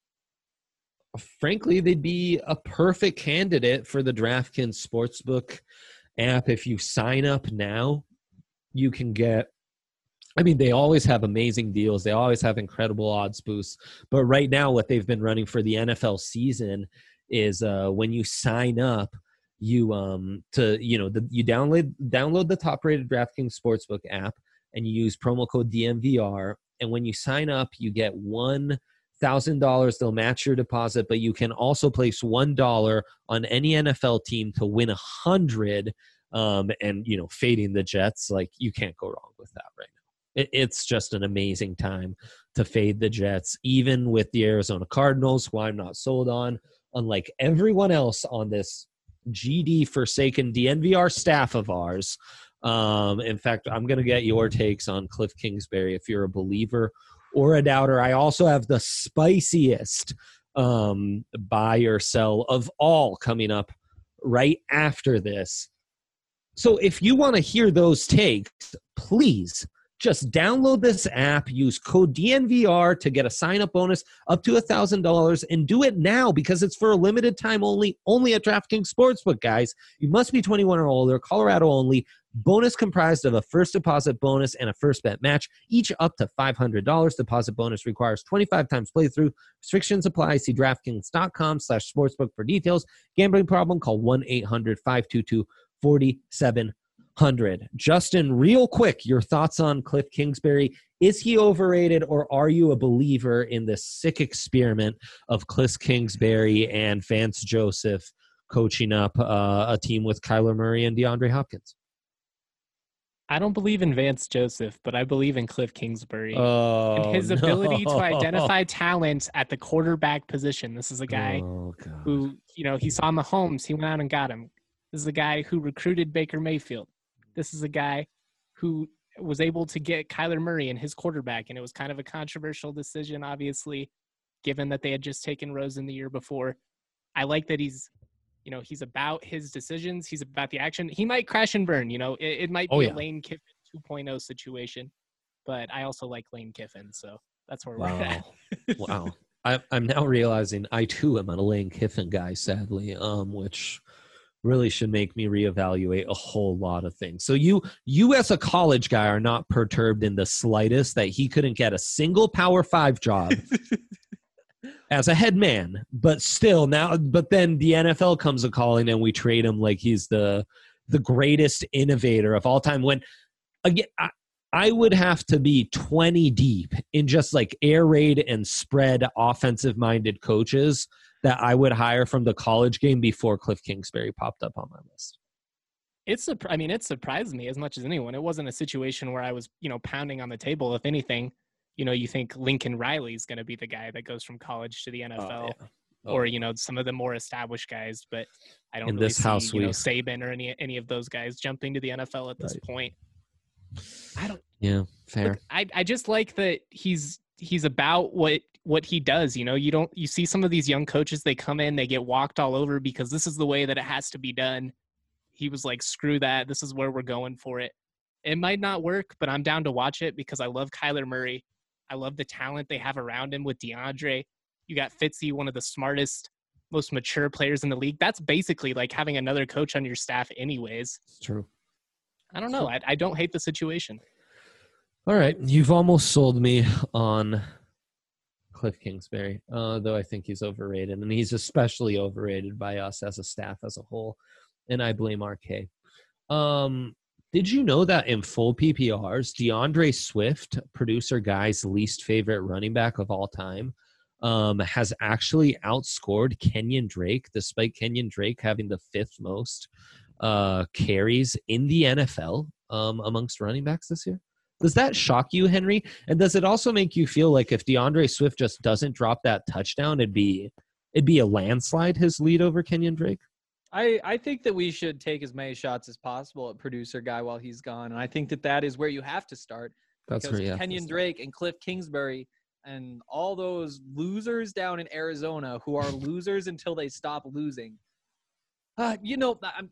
frankly, they'd be a perfect candidate for the DraftKings Sportsbook app. If you sign up now, you can get, I mean, they always have amazing deals. They always have incredible odds boosts. But right now, what they've been running for the N F L season is uh, when you sign up, you um to you know the, you download download the top-rated DraftKings Sportsbook app and you use promo code D M V R. And when you sign up, you get one thousand dollars. They'll match your deposit, but you can also place one dollar on any N F L team to win a hundred. Um, and, you know, fading the Jets, like, you can't go wrong with that right now. It, it's just an amazing time to fade the Jets, even with the Arizona Cardinals, who I'm not sold on, unlike everyone else on this G D-forsaken D N V R staff of ours. Um, in fact, I'm going to get your takes on Cliff Kingsbury if you're a believer or a doubter. I also have the spiciest um, buy or sell of all coming up right after this. So if you want to hear those takes, please Just download this app, use code D N V R to get a sign-up bonus up to one thousand dollars, and do it now because it's for a limited time only, only at DraftKings Sportsbook, guys. You must be twenty-one or older, Colorado only. Bonus comprised of a first deposit bonus and a first bet match, each up to five hundred dollars. Deposit bonus requires twenty-five times playthrough. Restrictions apply. See DraftKings.com slash sportsbook for details. Gambling problem? Call one eight hundred five two two four seven zero zero. Justin, real quick, your thoughts on Cliff Kingsbury. Is he overrated, or are you a believer in the sick experiment of Cliff Kingsbury and Vance Joseph coaching up uh, a team with Kyler Murray and DeAndre Hopkins? I don't believe in Vance Joseph, but I believe in Cliff Kingsbury Oh, and his no. ability to identify talent at the quarterback position. This is a guy Oh, God. who, you know, he saw Mahomes. He went out and got him. This is a guy who recruited Baker Mayfield. This is a guy who was able to get Kyler Murray and his quarterback, and it was kind of a controversial decision, obviously, given that they had just taken Rosen the year before. I like that he's, you know, he's about his decisions. He's about the action. He might crash and burn. You know, it, it might be Oh, a yeah. Lane Kiffin two point oh situation, but I also like Lane Kiffin, so that's where we're Wow. at. Wow. I, I'm now realizing I, too, am a Lane Kiffin guy, sadly, um, which really should make me reevaluate a whole lot of things. So you, you as a college guy are not perturbed in the slightest that he couldn't get a single Power Five job as a head man, but still now, but then the N F L comes a calling and we trade him like he's the the greatest innovator of all time. When again, I, I would have to be twenty deep in just like air raid and spread offensive minded coaches that I would hire from the college game before Cliff Kingsbury popped up on my list. It's a, I mean, it surprised me as much as anyone. It wasn't a situation where I was, you know, pounding on the table. If anything, you know, you think Lincoln Riley is going to be the guy that goes from college to the N F L, Oh, yeah. Oh. or you know, some of the more established guys. But I don't In really this see, house, you know, we- Saban or any any of those guys jumping to the N F L at this Right. point. I don't. Yeah, fair. Look, I I just like that he's he's about what what he does. You know, you don't you see some of these young coaches, they come in, they get walked all over because this is the way that it has to be done. He was like, screw that. This is where we're going for it. It might not work, but I'm down to watch it because I love Kyler Murray. I love the talent they have around him with DeAndre. You got Fitzy, one of the smartest, most mature players in the league. That's basically like having another coach on your staff anyways. It's true. I don't know. I, I don't hate the situation. All right, you've almost sold me on Cliff Kingsbury, uh, though I think he's overrated, and he's especially overrated by us as a staff as a whole, and I blame R K. Um, did you know that in full P P Rs, DeAndre Swift, producer guy's least favorite running back of all time, um, has actually outscored Kenyon Drake, despite Kenyon Drake having the fifth most uh, carries in the N F L um, amongst running backs this year? Does that shock you, Henry? And does it also make you feel like if DeAndre Swift just doesn't drop that touchdown, it'd be it'd be a landslide, his lead over Kenyon Drake? I, I think that we should take as many shots as possible at producer guy while he's gone. And I think that that is where you have to start. That's because where you have to Kenyon start. Drake and Cliff Kingsbury and all those losers down in Arizona who are losers until they stop losing. Uh, you know, I'm,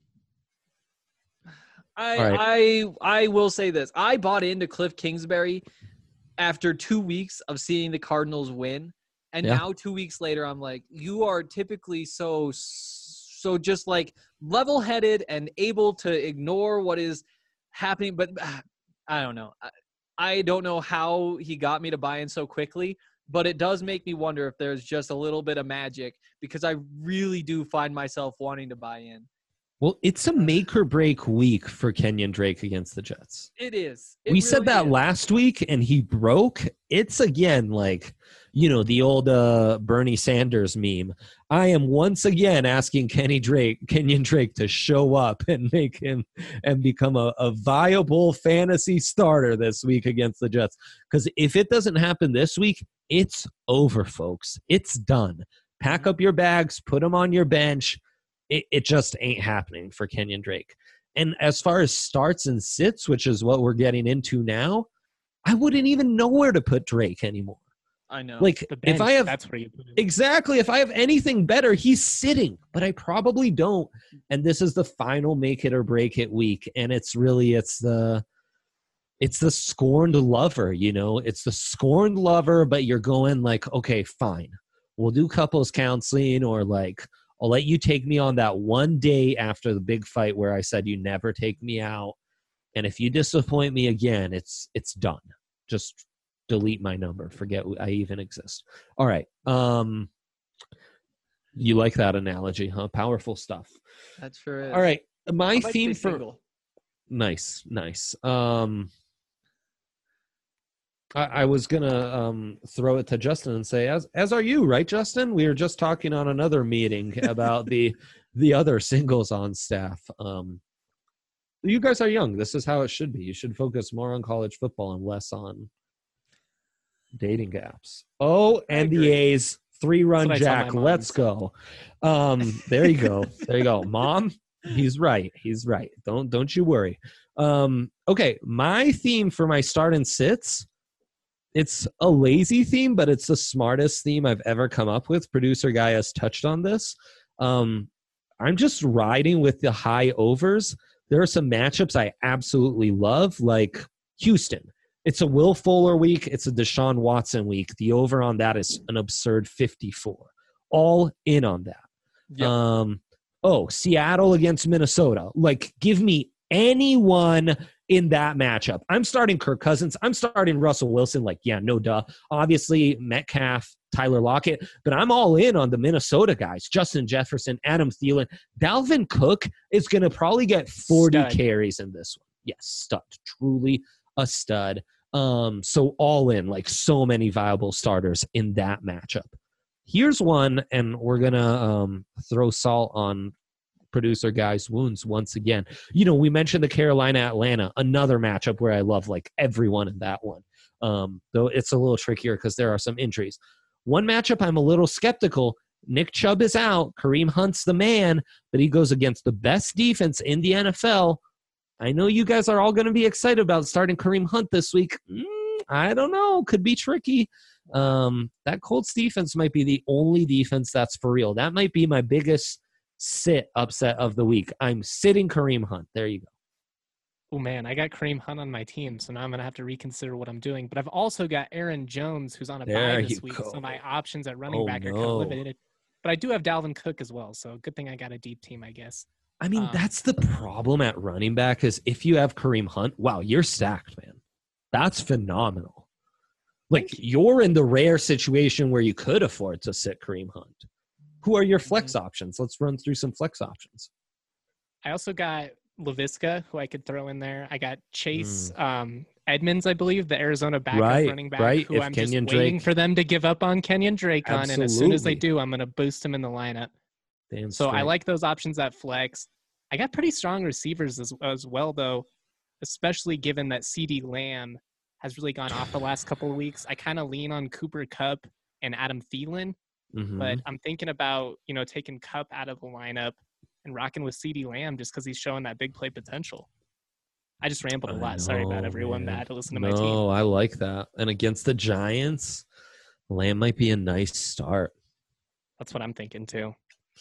I, All right. I I will say this. I bought into Cliff Kingsbury after two weeks of seeing the Cardinals win. And Yeah. now two weeks later, I'm like, you are typically so, so just like level-headed and able to ignore what is happening. But uh, I don't know. I, I don't know how he got me to buy in so quickly, but it does make me wonder if there's just a little bit of magic because I really do find myself wanting to buy in. Well, it's a make or break week for Kenyon Drake against the Jets. It is. It we said really that is. last week, and he broke. It's again like, you know, the old uh, Bernie Sanders meme. I am once again asking Kenny Drake, Kenyon Drake to show up and make him and become a, a viable fantasy starter this week against the Jets. Because if it doesn't happen this week, it's over, folks. It's done. Pack up your bags, put them on your bench. It, it just ain't happening for Kenyon Drake. And as far as starts and sits, which is what we're getting into now, I wouldn't even know where to put Drake anymore. I know. Like, The bench, if I have that's where you put it. exactly, if I have anything better, he's sitting, but I probably don't. And this is the final make it or break it week, and it's really it's the it's the scorned lover, you know, it's the scorned lover, but you're going like, okay, fine. We'll do couples counseling, or like, I'll let you take me on that one day after the big fight where I said you never take me out. And if you disappoint me again, it's it's done. Just delete my number. Forget I even exist. All right. Um, you like that analogy, huh? Powerful stuff. That's sure. All right. My I might theme stay for single. nice, nice. Um, I, I was gonna um, throw it to Justin and say, as as are you, right, Justin? We were just talking on another meeting about the the other singles on staff. Um, you guys are young. This is how it should be. You should focus more on college football and less on dating apps. Oh, and the A's three-run That's what I tell jack. my mom, Let's so. go. Um, there you go. There you go, Mom. He's right. He's right. Don't don't you worry. Um, okay, my theme for my start and sits. It's a lazy theme, but it's the smartest theme I've ever come up with. Producer guy has touched on this. Um, I'm just riding with the high overs. There are some matchups I absolutely love, like Houston. It's a Will Fuller week. It's a Deshaun Watson week. The over on that is an absurd fifty-four. All in on that. Yep. Um, oh, Seattle against Minnesota. Like, give me anyone in that matchup. I'm starting Kirk Cousins. I'm starting Russell Wilson. Like, yeah, no duh. Obviously, Metcalf, Tyler Lockett. But I'm all in on the Minnesota guys. Justin Jefferson, Adam Thielen. Dalvin Cook is going to probably get forty Stud. carries in this one. Yes, stud. Truly a stud. Um, so all in, like so many viable starters in that matchup. Here's one, and we're going to um, throw salt on producer guy's wounds once again. You know, we mentioned the Carolina-Atlanta, another matchup where I love like everyone in that one. Um, though it's a little trickier because there are some injuries. One matchup I'm a little skeptical. Nick Chubb is out. Kareem Hunt's the man, but he goes against the best defense in the N F L. I know you guys are all going to be excited about starting Kareem Hunt this week. Mm, I don't know. Could be tricky. Um, that Colts defense might be the only defense that's for real. That might be my biggest sit upset of the week. I'm sitting Kareem Hunt. There you go. Oh, man, I got Kareem Hunt on my team, so now I'm going to have to reconsider what I'm doing. But I've also got Aaron Jones, who's on a There bye you this week, go. so my options at running Oh, back are kind no. of limited. But I do have Dalvin Cook as well, so good thing I got a deep team, I guess. I mean, Um, that's the problem at running back is if you have Kareem Hunt, wow, you're stacked, man. That's phenomenal. Like, you're in the rare situation where you could afford to sit Kareem Hunt. Who are your flex options? Let's run through some flex options. I also got LaVisca, who I could throw in there. I got Chase um, Edmonds, I believe, the Arizona backup Right, running back, right. who If I'm Kenyon just waiting Drake- for them to give up on Kenyon Drake on. And as soon as they Absolutely. do, I'm going to boost him in the lineup. Damn So I straight. like those options at flex. I got pretty strong receivers as, as well, though, especially given that CeeDee Lamb has really gone off the last couple of weeks. I kind of lean on Cooper Kupp and Adam Thielen, Mhm. but I'm thinking about, you know, taking Kupp out of the lineup and rocking with CeeDee Lamb just because he's showing that big play potential. I just rambled a I lot. Sorry about know, everyone man. that had to listen to no, my team. I like that. And against the Giants, Lamb might be a nice start. That's what I'm thinking too.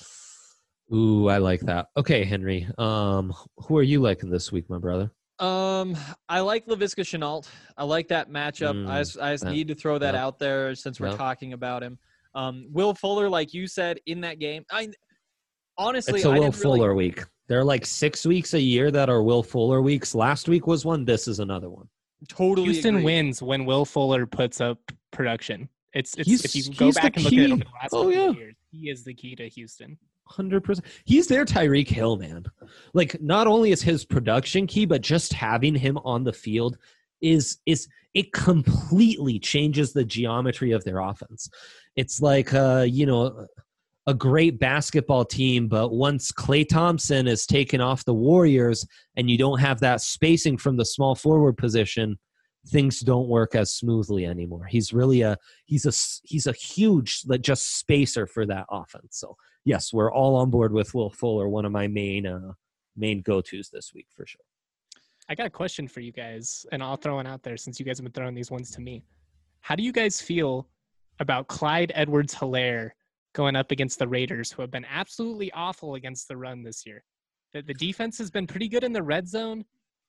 Ooh, I like that. Okay, Henry. Um, who are you liking this week, my brother? Um, I like LaVisca Chenault. I like that matchup. Mm, I just, I just that- need to throw that yep. out there since we're Yep. talking about him. Um, Will Fuller, like you said in that game, I honestly It's a I Will didn't really- Fuller week. There are like six weeks a year that are Will Fuller weeks. Last week was one. This is another one. totally Houston agree. wins when Will Fuller puts up production. It's, it's He's- if you go he's the back and look at it key. over the last Oh, couple yeah. of years, he is the key to Houston. one hundred percent. He's their Tyreek Hill, man. Like, not only is his production key, but just having him on the field is is it completely changes the geometry of their offense. It's like, uh, you know, a great basketball team, but once Klay Thompson is taken off the Warriors and you don't have that spacing from the small forward position, things don't work as smoothly anymore. He's really a he's a he's a huge like just spacer for that offense. So yes, we're all on board with Will Fuller, one of my main uh, main go-tos this week for sure. I got a question for you guys, and I'll throw it out there since you guys have been throwing these ones to me. How do you guys feel about Clyde Edwards-Helaire going up against the Raiders, who have been absolutely awful against the run this year? The, the defense has been pretty good in the red zone,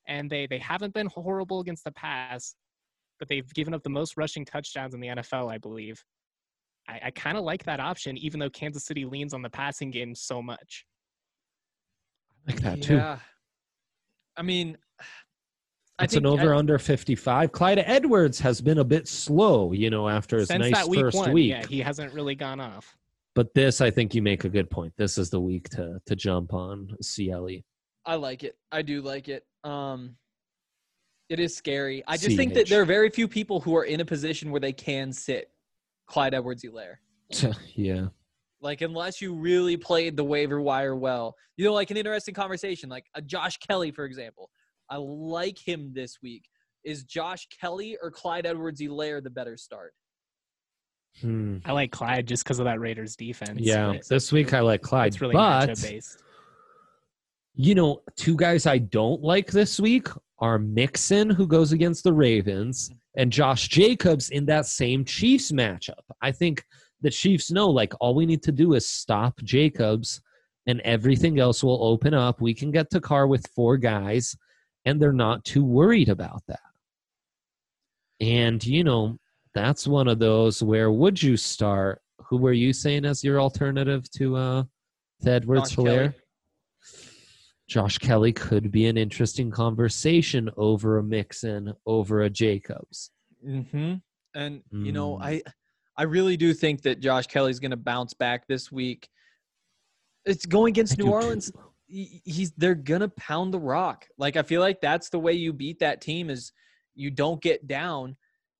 and they they haven't been horrible against the pass, but they've given up the most rushing touchdowns in the N F L, I believe. I, I kind of like that option, even though Kansas City leans on the passing game so much. I like that too. Yeah. I mean, I It's an think over I- under fifty-five. Clyde Edwards has been a bit slow, you know, after his Since nice that week first one, week. yeah, he hasn't really gone off. But this, I think you make a good point. This is the week to to jump on C L E. I like it. I do like it. Um, it is scary. I just C think H. that there are very few people who are in a position where they can sit Clyde Edwards-Helaire. Yeah. Like, unless you really played the waiver wire well. You know, like an interesting conversation, like a Josh Kelly, for example. I like him this week. Is Josh Kelly or Clyde Edwards-Helaire the better start? Hmm. I like Clyde just because of that Raiders defense. Yeah. but This week I like Clyde. it's really but, matchup based. you know, two guys I don't like this week are Mixon, who goes against the Ravens, and Josh Jacobs in that same Chiefs matchup. I think the Chiefs know, like, all we need to do is stop Jacobs, and everything else will open up. We can get to Carr with four guys, and they're not too worried about that. And, you know, that's one of those where would you start? Who were you saying as your alternative to uh, to Edwards-Helaire? Kelly. Josh Kelly could be an interesting conversation over a Mixon, over a Jacobs. Mm-hmm. And, you know, Mm. I I really do think that Josh Kelly's going to bounce back this week. It's going against I New do Orleans. too. He- He's they're going to pound the rock. Like, I feel like that's the way you beat that team is you don't get down.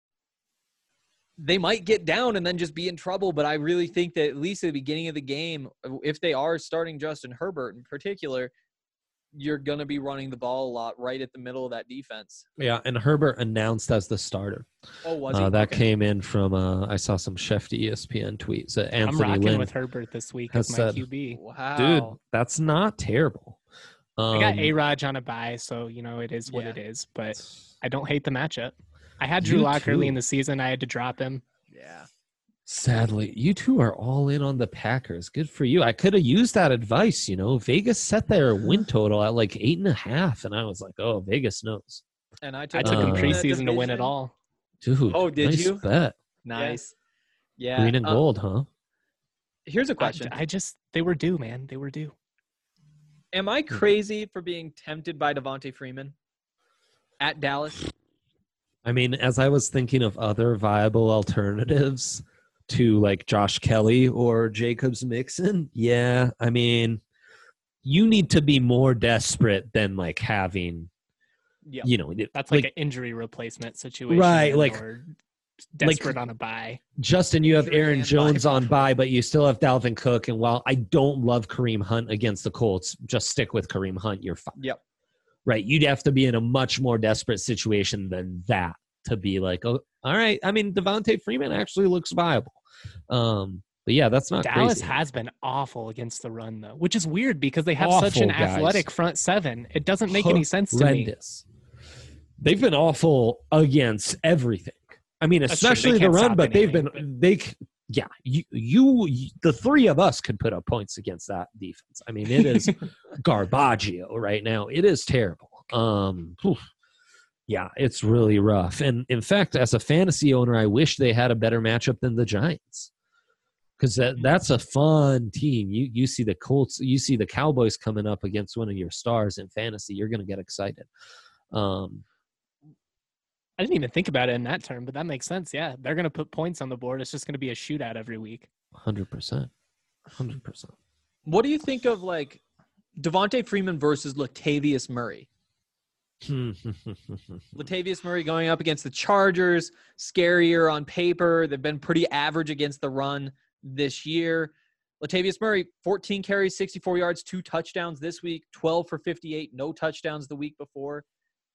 They might get down and then just be in trouble, but I really think that at least at the beginning of the game, if they are starting Justin Herbert in particular, you're going to be running the ball a lot right at the middle of that defense. Yeah, and Herbert announced as the starter. Oh, was he? Uh, that Okay. came in from, uh, I saw some Shefty E S P N tweets. Uh, I'm Anthony rocking Lynn. with Herbert this week has as my said- Q B. Wow. Dude, that's not terrible. Um, I got A-Raj on a bye, so, you know, it is what Yeah. it is. But I don't hate the matchup. I had You Drew Lock early too. in the season. I had to drop him. Yeah. Sadly, you two are all in on the Packers. Good for you. I could have used that advice, you know. Vegas set their win total at like eight and a half, and I was like, oh, Vegas knows. And I took, I took Uh, him that preseason to win it division. all. Dude, Oh, did nice you? bet. Nice. Yeah. Green and uh, gold, huh? Here's a I, question. I just, they were due, man. They were due. Am I crazy for being tempted by Devontae Freeman at Dallas? I mean, as I was thinking of other viable alternatives to like Josh Kelly or Jacobs Mixon, yeah, I mean, you need to be more desperate than like having, Yeah. you know, That's like, an injury replacement situation. Right, like- Or desperate on a bye. Justin, you have Injury Aaron and Jones bye. on bye, but you still have Dalvin Cook. And while I don't love Kareem Hunt against the Colts, just stick with Kareem Hunt. You're fine. Yep. Right. You'd have to be in a much more desperate situation than that to be like, oh, all right. I mean, Devontae Freeman actually looks viable. Um, but yeah, that's not Dallas crazy. has been awful against the run, though, which is weird because they have such an Awful, guys. athletic front seven. It doesn't make any sense to me. Horrendous. They've been awful against everything. I mean, That's true. They especially the can't run, stop but they've anything, been they. c- Yeah, you, you, you, the three of us could put up points against that defense. I mean, it is garbaggio right now. It is terrible. Um, oof. Yeah, it's really rough. And in fact, as a fantasy owner, I wish they had a better matchup than the Giants, because that, that's a fun team. You you see the Colts, you see the Cowboys coming up against one of your stars in fantasy. You're going to get excited. Um, I didn't even think about it in that term, but that makes sense. Yeah, they're going to put points on the board. It's just going to be a shootout every week. Hundred percent, hundred percent. What do you think of like Devontae Freeman versus Latavius Murray? Latavius Murray going up against the Chargers, scarier on paper. They've been pretty average against the run this year. Latavius Murray, fourteen carries, sixty-four yards, two touchdowns this week, twelve for fifty-eight, no touchdowns the week before.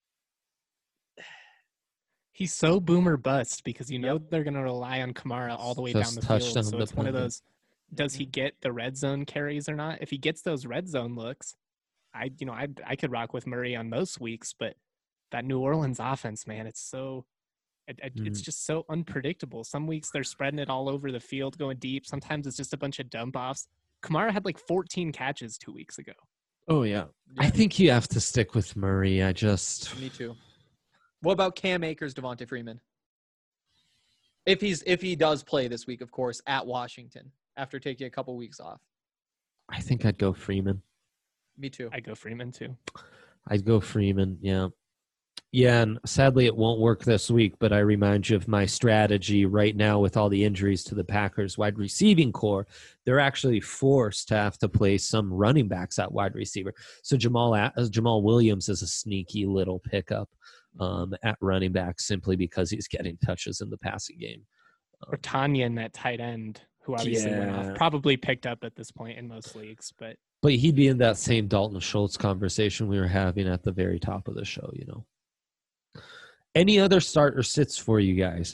He's so boomer bust because you know they're going to rely on Kamara all the way Just down the field. touchdown So it's one of dependent. those, does he get the red zone carries or not? If he gets those red zone looks, I you know I I could rock with Murray on most weeks, but that New Orleans offense, man, it's so it, it- it's Mm. just so unpredictable. Some weeks they're spreading it all over the field, going deep. Sometimes it's just a bunch of dump offs. Kamara had like fourteen catches two weeks ago. Oh, yeah. Yeah, I think you have to stick with Murray. I just. me too. What about Cam Akers, Devonta Freeman? If he's if he does play this week, of course, at Washington after taking a couple weeks off. I think I'd go Freeman. Me too. I go Freeman too. I'd go Freeman, yeah. Yeah, and sadly it won't work this week, but I remind you of my strategy right now with all the injuries to the Packers wide receiving core. They're actually forced to have to play some running backs at wide receiver. So Jamal uh, Jamal Williams is a sneaky little pickup um, at running back simply because he's getting touches in the passing game. Or Tanya in that tight end, who obviously went Yeah. off. Probably picked up at this point in most leagues, but But he'd be in that same Dalton Schultz conversation we were having at the very top of the show, you know. Any other start or sits for you guys?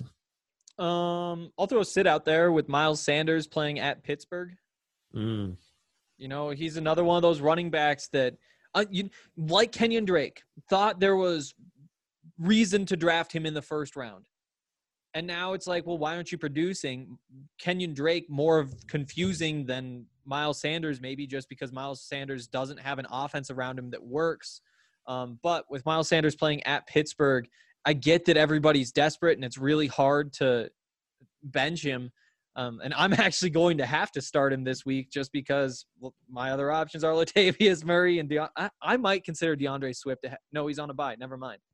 Um, I'll throw a sit out there with Miles Sanders playing at Pittsburgh. Mm. You know, he's another one of those running backs that, uh, you like Kenyon Drake, thought there was reason to draft him in the first round. And now it's like, well, why aren't you producing? Kenyon Drake more of confusing than Miles Sanders, maybe just because Miles Sanders doesn't have an offense around him that works. Um, but with Miles Sanders playing at Pittsburgh, I get that everybody's desperate and it's really hard to bench him. Um, and I'm actually going to have to start him this week just because well, my other options are Latavius Murray and De- I, I might consider DeAndre Swift. To ha- no, he's on a bye. Never mind.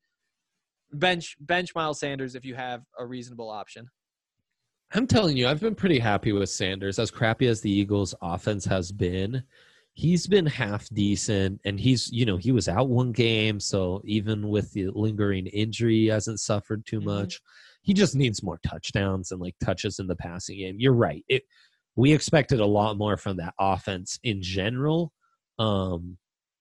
Bench bench Miles Sanders if you have a reasonable option. I'm telling you, I've been pretty happy with Sanders. As crappy as the Eagles' offense has been, he's been half decent, and he's, you know, he was out one game, so even with the lingering injury, he hasn't suffered too Mhm. much. He just needs more touchdowns and like touches in the passing game. You're right. It we expected a lot more from that offense in general. Um,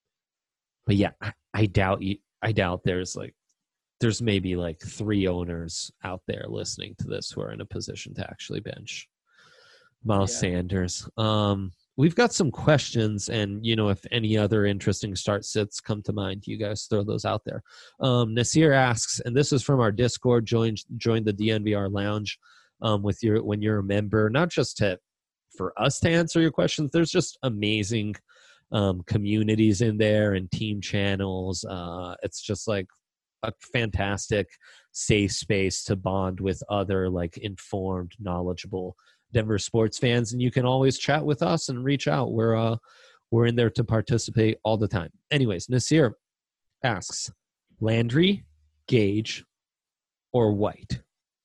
but yeah, I, I doubt you. I doubt there's like there's maybe like three owners out there listening to this who are in a position to actually bench Miles Yeah. Sanders. Um, we've got some questions, and you know, if any other interesting start sits come to mind, you guys throw those out there. Um, Nasir asks, and this is from our Discord. Join join the D N V R Lounge um, with your when you're a member, not just to for us to answer your questions. There's just amazing um, communities in there and team channels. Uh, it's just like a fantastic safe space to bond with other like informed, knowledgeable Denver sports fans, and you can always chat with us and reach out. We're uh we're in there to participate all the time. Anyways, Nasir asks, Landry, Gage, or White,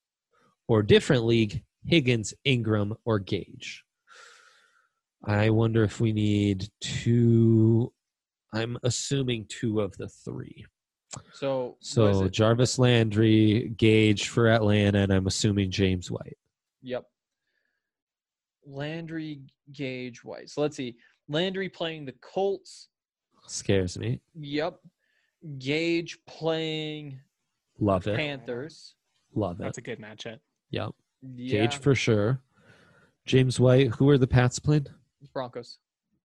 or different league, Higgins, Ingram, or Gage. I wonder if we need two. I'm assuming two of the three. So, So was it- Jarvis Landry, Gage for Atlanta, and I'm assuming James White. Yep. Landry, Gage, White. So let's see. Landry playing the Colts. Scares me. Yep. Gage playing Love it. Panthers. Love it. that's a good matchup. Yep. Yeah. Gage for sure. James White. Who are the Pats playing? Broncos.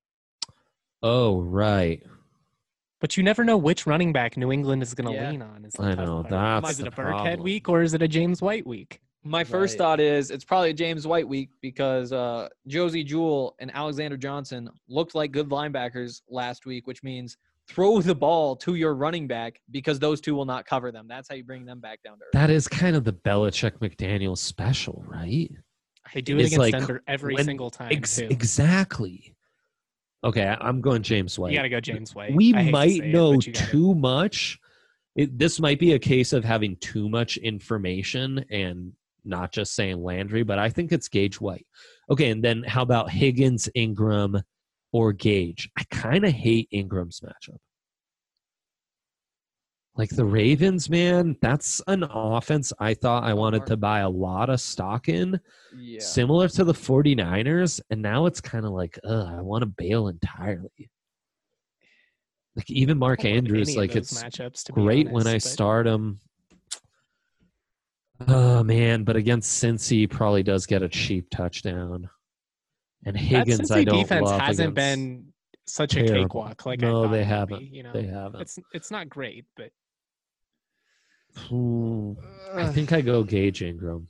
Oh, right. But you never know which running back New England is going to Yeah. lean on. Is the I tough know, part. that's Is it the a Burkhead problem. week or is it a James White week? My first Right. thought is it's probably a James White week because uh, Josie Jewell and Alexander Johnson looked like good linebackers last week, which means throw the ball to your running back because those two will not cover them. That's how you bring them back down to earth. That is kind of the Belichick McDaniel special, right? They do it It's against like Denver every when- single time, Ex- too. exactly. Okay, I- I'm going James White. You got to go James White. We I hate to might say it, know but you gotta. too much. It, this might be a case of having too much information and not just saying Landry, but I think it's Gage White. Okay, and then how about Higgins, Ingram, or Gage? I kind of hate Ingram's matchup. Like the Ravens, man, that's an offense I thought I wanted to buy a lot of stock in, Yeah. similar to the 49ers, and now it's kind of like, ugh, I want to bail entirely. Like even Mark I don't love Andrews, any of like those it's matchups, to be great when honest, I but start him. Oh man, but against Cincy probably does get a cheap touchdown. And that Higgins, I Cincy don't defense love hasn't against- been such a terrible. cakewalk like I No, thought they it would haven't. be, you know, They haven't. it's it's not great, but Ooh, I think I go Gage Ingram.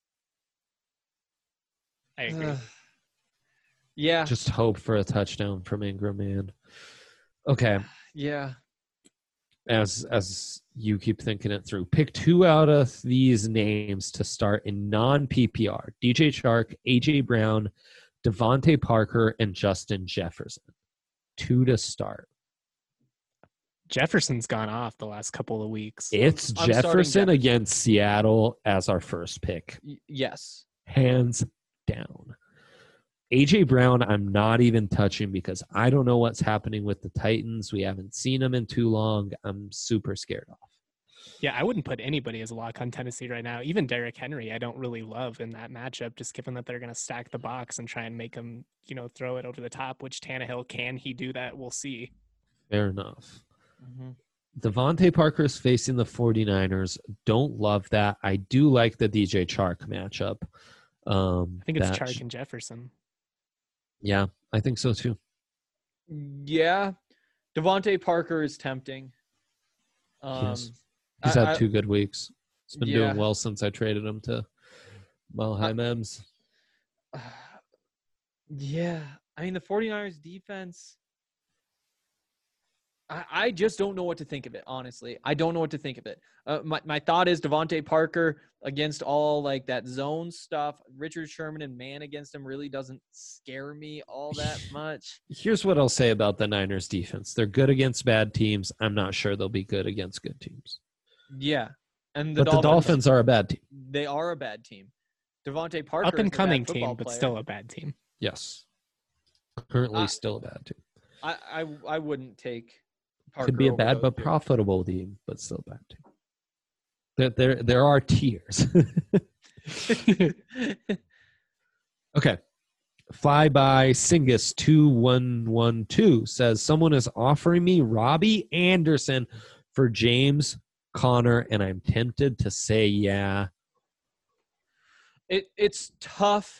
I agree. Ugh. Yeah. Just hope for a touchdown from Ingram, man. Okay. Yeah. As as you keep thinking it through, pick two out of these names to start in non-P P R. D J Chark, A J Brown, Devontae Parker, and Justin Jefferson. Two to start. Jefferson's gone off the last couple of weeks. It's I'm starting Jefferson Jefferson. against Seattle as our first pick. Y- yes. Hands down. A J Brown, I'm not even touching because I don't know what's happening with the Titans. We haven't seen him in too long. I'm super scared off. Yeah, I wouldn't put anybody as a lock on Tennessee right now. Even Derrick Henry, I don't really love in that matchup, just given that they're going to stack the box and try and make him, you know, throw it over the top, which Tannehill, can he do that? We'll see. Fair enough. Mm-hmm. Devontae Parker is facing the 49ers. Don't love that. I do like the D J Chark matchup. Um, I think it's that Chark sh- and Jefferson. Yeah, I think so too. Yeah. Devontae Parker is tempting. Um, Yes. He's had I- I- two good weeks. He's been Yeah. doing well since I traded him to Malheim Mems. Yeah. I mean, the 49ers defense, I, I just don't know what to think of it, honestly. I don't know what to think of it. Uh, my, my thought is Devontae Parker against all like that zone stuff. Richard Sherman and man against him really doesn't scare me all that much. Here's what I'll say about the Niners defense. They're good against bad teams. I'm not sure they'll be good against good teams. Yeah. And the But Dolphins, the Dolphins are a bad team. they are a bad team. Devontae Parker Up and is a bad coming football team, but player. still a bad team. Yes. Currently Uh, still a bad team. I, I I wouldn't take Parker. Could be a over bad those but two. profitable team, but still a bad team. There, there, there are tiers. Okay. Fly by Singus two one one two says someone is offering me Robbie Anderson for James Conner, and I'm tempted to say yeah. It it's tough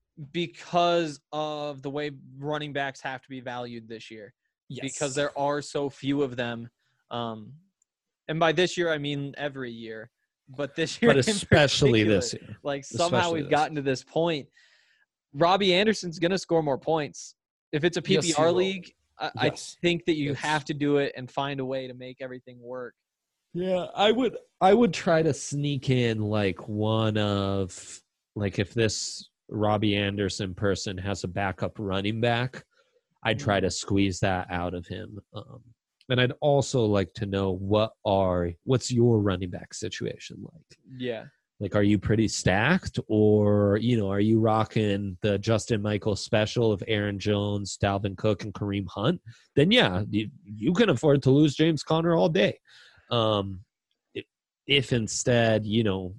because of the way running backs have to be valued this year. Because there are so few of them. Um, and by this year, I mean every year. But this year, but in especially particular, this year. like somehow Especially we've this. gotten to this point. Robbie Anderson's going to score more points. If it's a Yes, P he P R will. league, I, Yes. I think that you Yes. have to do it and find a way to make everything work. Yeah, I would I would try to sneak in like one of like if this Robbie Anderson person has a backup running back, I'd try to squeeze that out of him. Um, and I'd also like to know what are what's your running back situation like? Yeah. Like, are you pretty stacked, or you know, are you rocking the Justin Michael special of Aaron Jones, Dalvin Cook, and Kareem Hunt? Then yeah, you, you can afford to lose James Conner all day. Um, if, if instead, you know,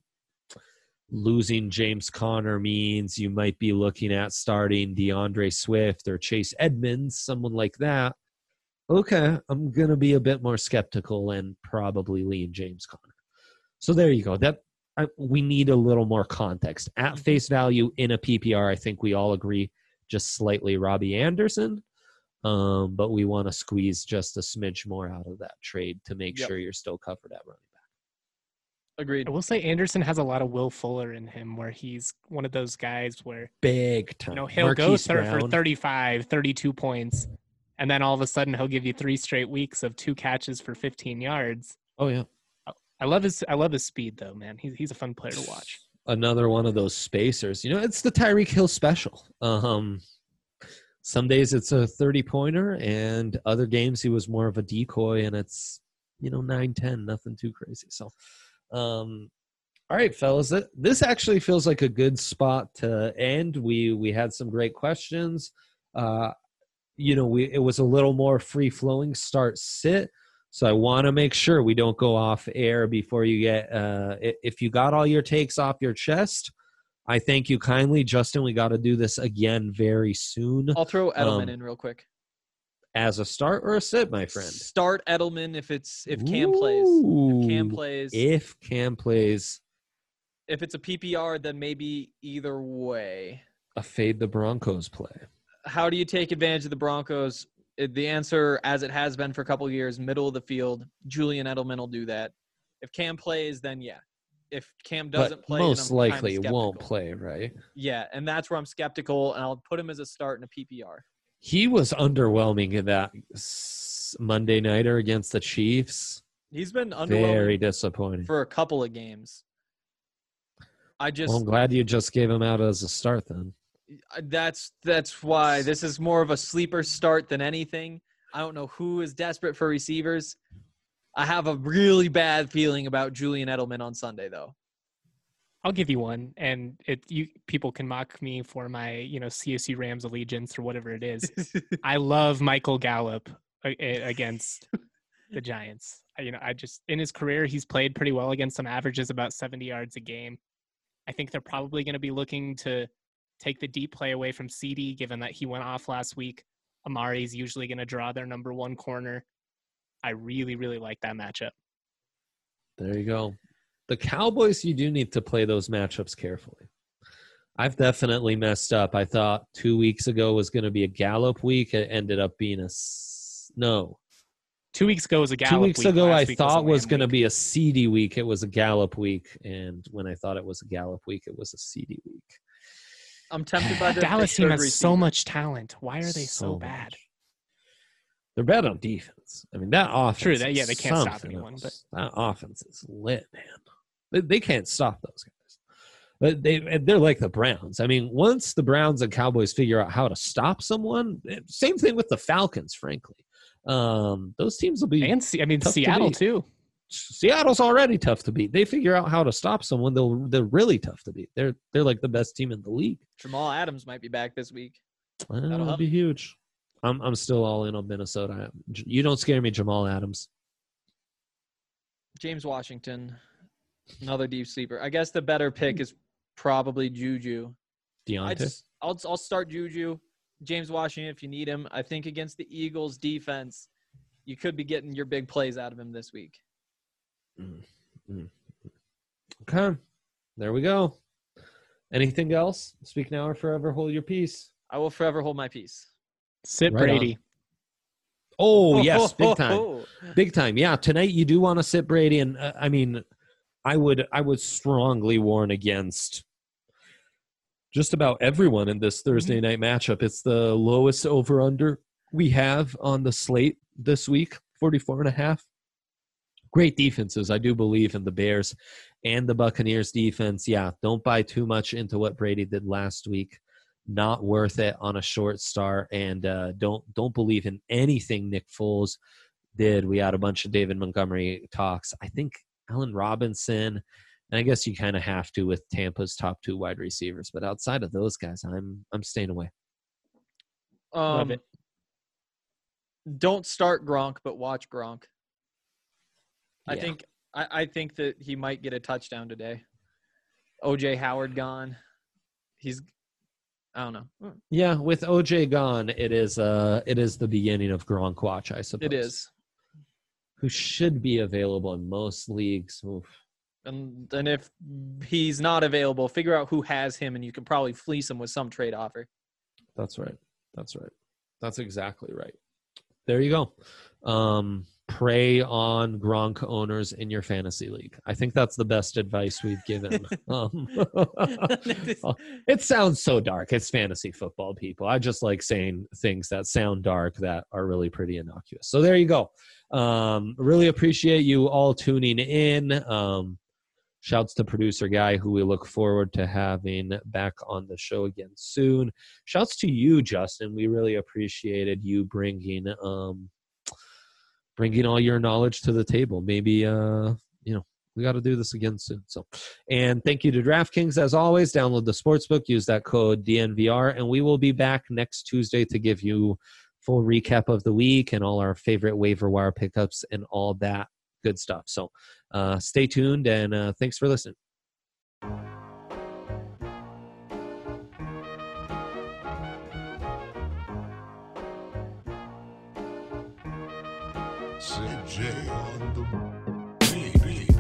losing James Conner means you might be looking at starting DeAndre Swift or Chase Edmonds, someone like that. Okay, I'm gonna be a bit more skeptical and probably lean James Conner. So there you go. That I, we need a little more context. At face value in a P P R, I think we all agree just slightly Robbie Anderson, um, but we want to squeeze just a smidge more out of that trade to make Yep. sure you're still covered at running back. Agreed. I will say Anderson has a lot of Will Fuller in him, where he's one of those guys where, Big time. you know, he'll go Marquise thir- for Brown. thirty-five, thirty-two points, and then all of a sudden he'll give you three straight weeks of two catches for fifteen yards. Oh yeah. I love his I love his speed though, man. He's he's a fun player to watch. Another one of those spacers. You know, it's the Tyreek Hill special. Um, some days it's a thirty pointer, and other games he was more of a decoy, and it's, you know, nine ten, nothing too crazy. So, um, all right, fellas, th- this actually feels like a good spot to end. We we had some great questions. Uh, you know, we it was a little more free flowing start sit. So I want to make sure we don't go off air before you get, uh, i- if you got all your takes off your chest, I thank you kindly. Justin, we got to do this again very soon. I'll throw Edelman Um, in real quick. As a start or a sit, my friend? Start Edelman if it's if Cam plays. If Cam Ooh, plays. If Cam plays, If it's a P P R, then maybe either way. a fade the Broncos play. How do you take advantage of the Broncos? It- The answer, as it has been for a couple of years, middle of the field. Julian Edelman will do that. If Cam plays, then yeah. If Cam doesn't But play, then most I'm kinda likely it won't skeptical. play, right? Yeah, and that's where I'm skeptical, and I'll put him as a start in a P P R. He was underwhelming in that this Monday nighter against the Chiefs. He's been Very underwhelming disappointing. for a couple of games. I just Well, I'm glad you just gave him out as a start then. that's that's why this is more of a sleeper start than anything. I don't know who is desperate for receivers. I have a really bad feeling about Julian Edelman on Sunday, though. I'll give you one, and it you people can mock me for my you know C S U Rams allegiance or whatever it is. I love Michael Gallup a- a- against the Giants. I- You know, I just in his career he's played pretty well against some averages about seventy yards a game. I think they're probably going to be looking to take the deep play away from C D, given that he went off last week. Amari's usually going to draw their number one corner. I really, really like that matchup. There you go. The Cowboys, you do need to play those matchups carefully. I've definitely messed up. I thought two weeks ago was going to be a Gallup week. It ended up being a s- no. Two weeks ago was a Gallup Two weeks week. ago, Last I week thought a was Lamb going to week. be a C D week. It was a Gallup week, and when I thought it was a Gallup week, it was a C D week. I'm tempted by the Dallas the team third has so receiver. much talent. Why are they so, bad? much. They're bad on defense. I mean, that offense. True, that- is yeah, they can't stop something anyone, else. That offense is lit, man. They, they can't stop those guys. But they they're like the Browns. I mean, once the Browns and Cowboys figure out how to stop someone, same thing with the Falcons. Frankly, um, those teams will be. And Se- I mean tough to Seattle beat. too. Seattle's already tough to beat. They figure out how to stop someone, they'll they're really tough to beat. They're they're like the best team in the league. Jamal Adams might be back this week. Uh, That'll That'll help. be huge. I'm I'm still all in on Minnesota. You don't scare me, Jamal Adams. James Washington, another deep sleeper. I guess the better pick is probably Juju. I Deontay. just, I'll I'll start Juju. James Washington if you need him. I think against the Eagles defense, you could be getting your big plays out of him this week. Mm, mm. Okay, there we go. Anything else? Speak now or forever hold your peace. I will forever hold my peace. Sit Right Brady. Oh yes, big time, big time. Yeah, tonight you do want to sit Brady, and uh, I mean, I would I would strongly warn against just about everyone in this Thursday night matchup. It's the lowest over under we have on the slate this week, forty-four and a half. Great defenses. I do believe in the Bears and the Buccaneers defense. Yeah, don't buy too much into what Brady did last week. Not worth it on a short start. And uh, don't don't believe in anything Nick Foles did. We had a bunch of David Montgomery talks. I think Allen Robinson, and I guess you kind of have to with Tampa's top two wide receivers. But outside of those guys, I'm I'm staying away. Love Um, it. don't start Gronk, but watch Gronk. I Yeah. think I, I think that he might get a touchdown today. O J Howard gone. He's I don't know. Yeah, with O J gone, it is uh it is the beginning of Gronk watch, I suppose. It is. Who should be available in most leagues. Oof. And and if he's not available, figure out who has him and you can probably fleece him with some trade offer. That's right. That's right. That's exactly right. There you go. Um, prey on Gronk owners in your fantasy league. I think that's the best advice we've given. um, it sounds so dark. It's fantasy football, people. I just like saying things that sound dark that are really pretty innocuous. So there you go. Um, really appreciate you all tuning in. Um, Shouts to producer Guy, who we look forward to having back on the show again soon. Shouts to you, Justin. We really appreciated you bringing um, bringing all your knowledge to the table. Maybe uh, you know we got to do this again soon. So, and thank you to DraftKings as always. Download the sportsbook, use that code D N V R, and we will be back next Tuesday to give you full recap of the week and all our favorite waiver wire pickups and all that good stuff. So uh, stay tuned, and uh, thanks for listening. C J on the beat.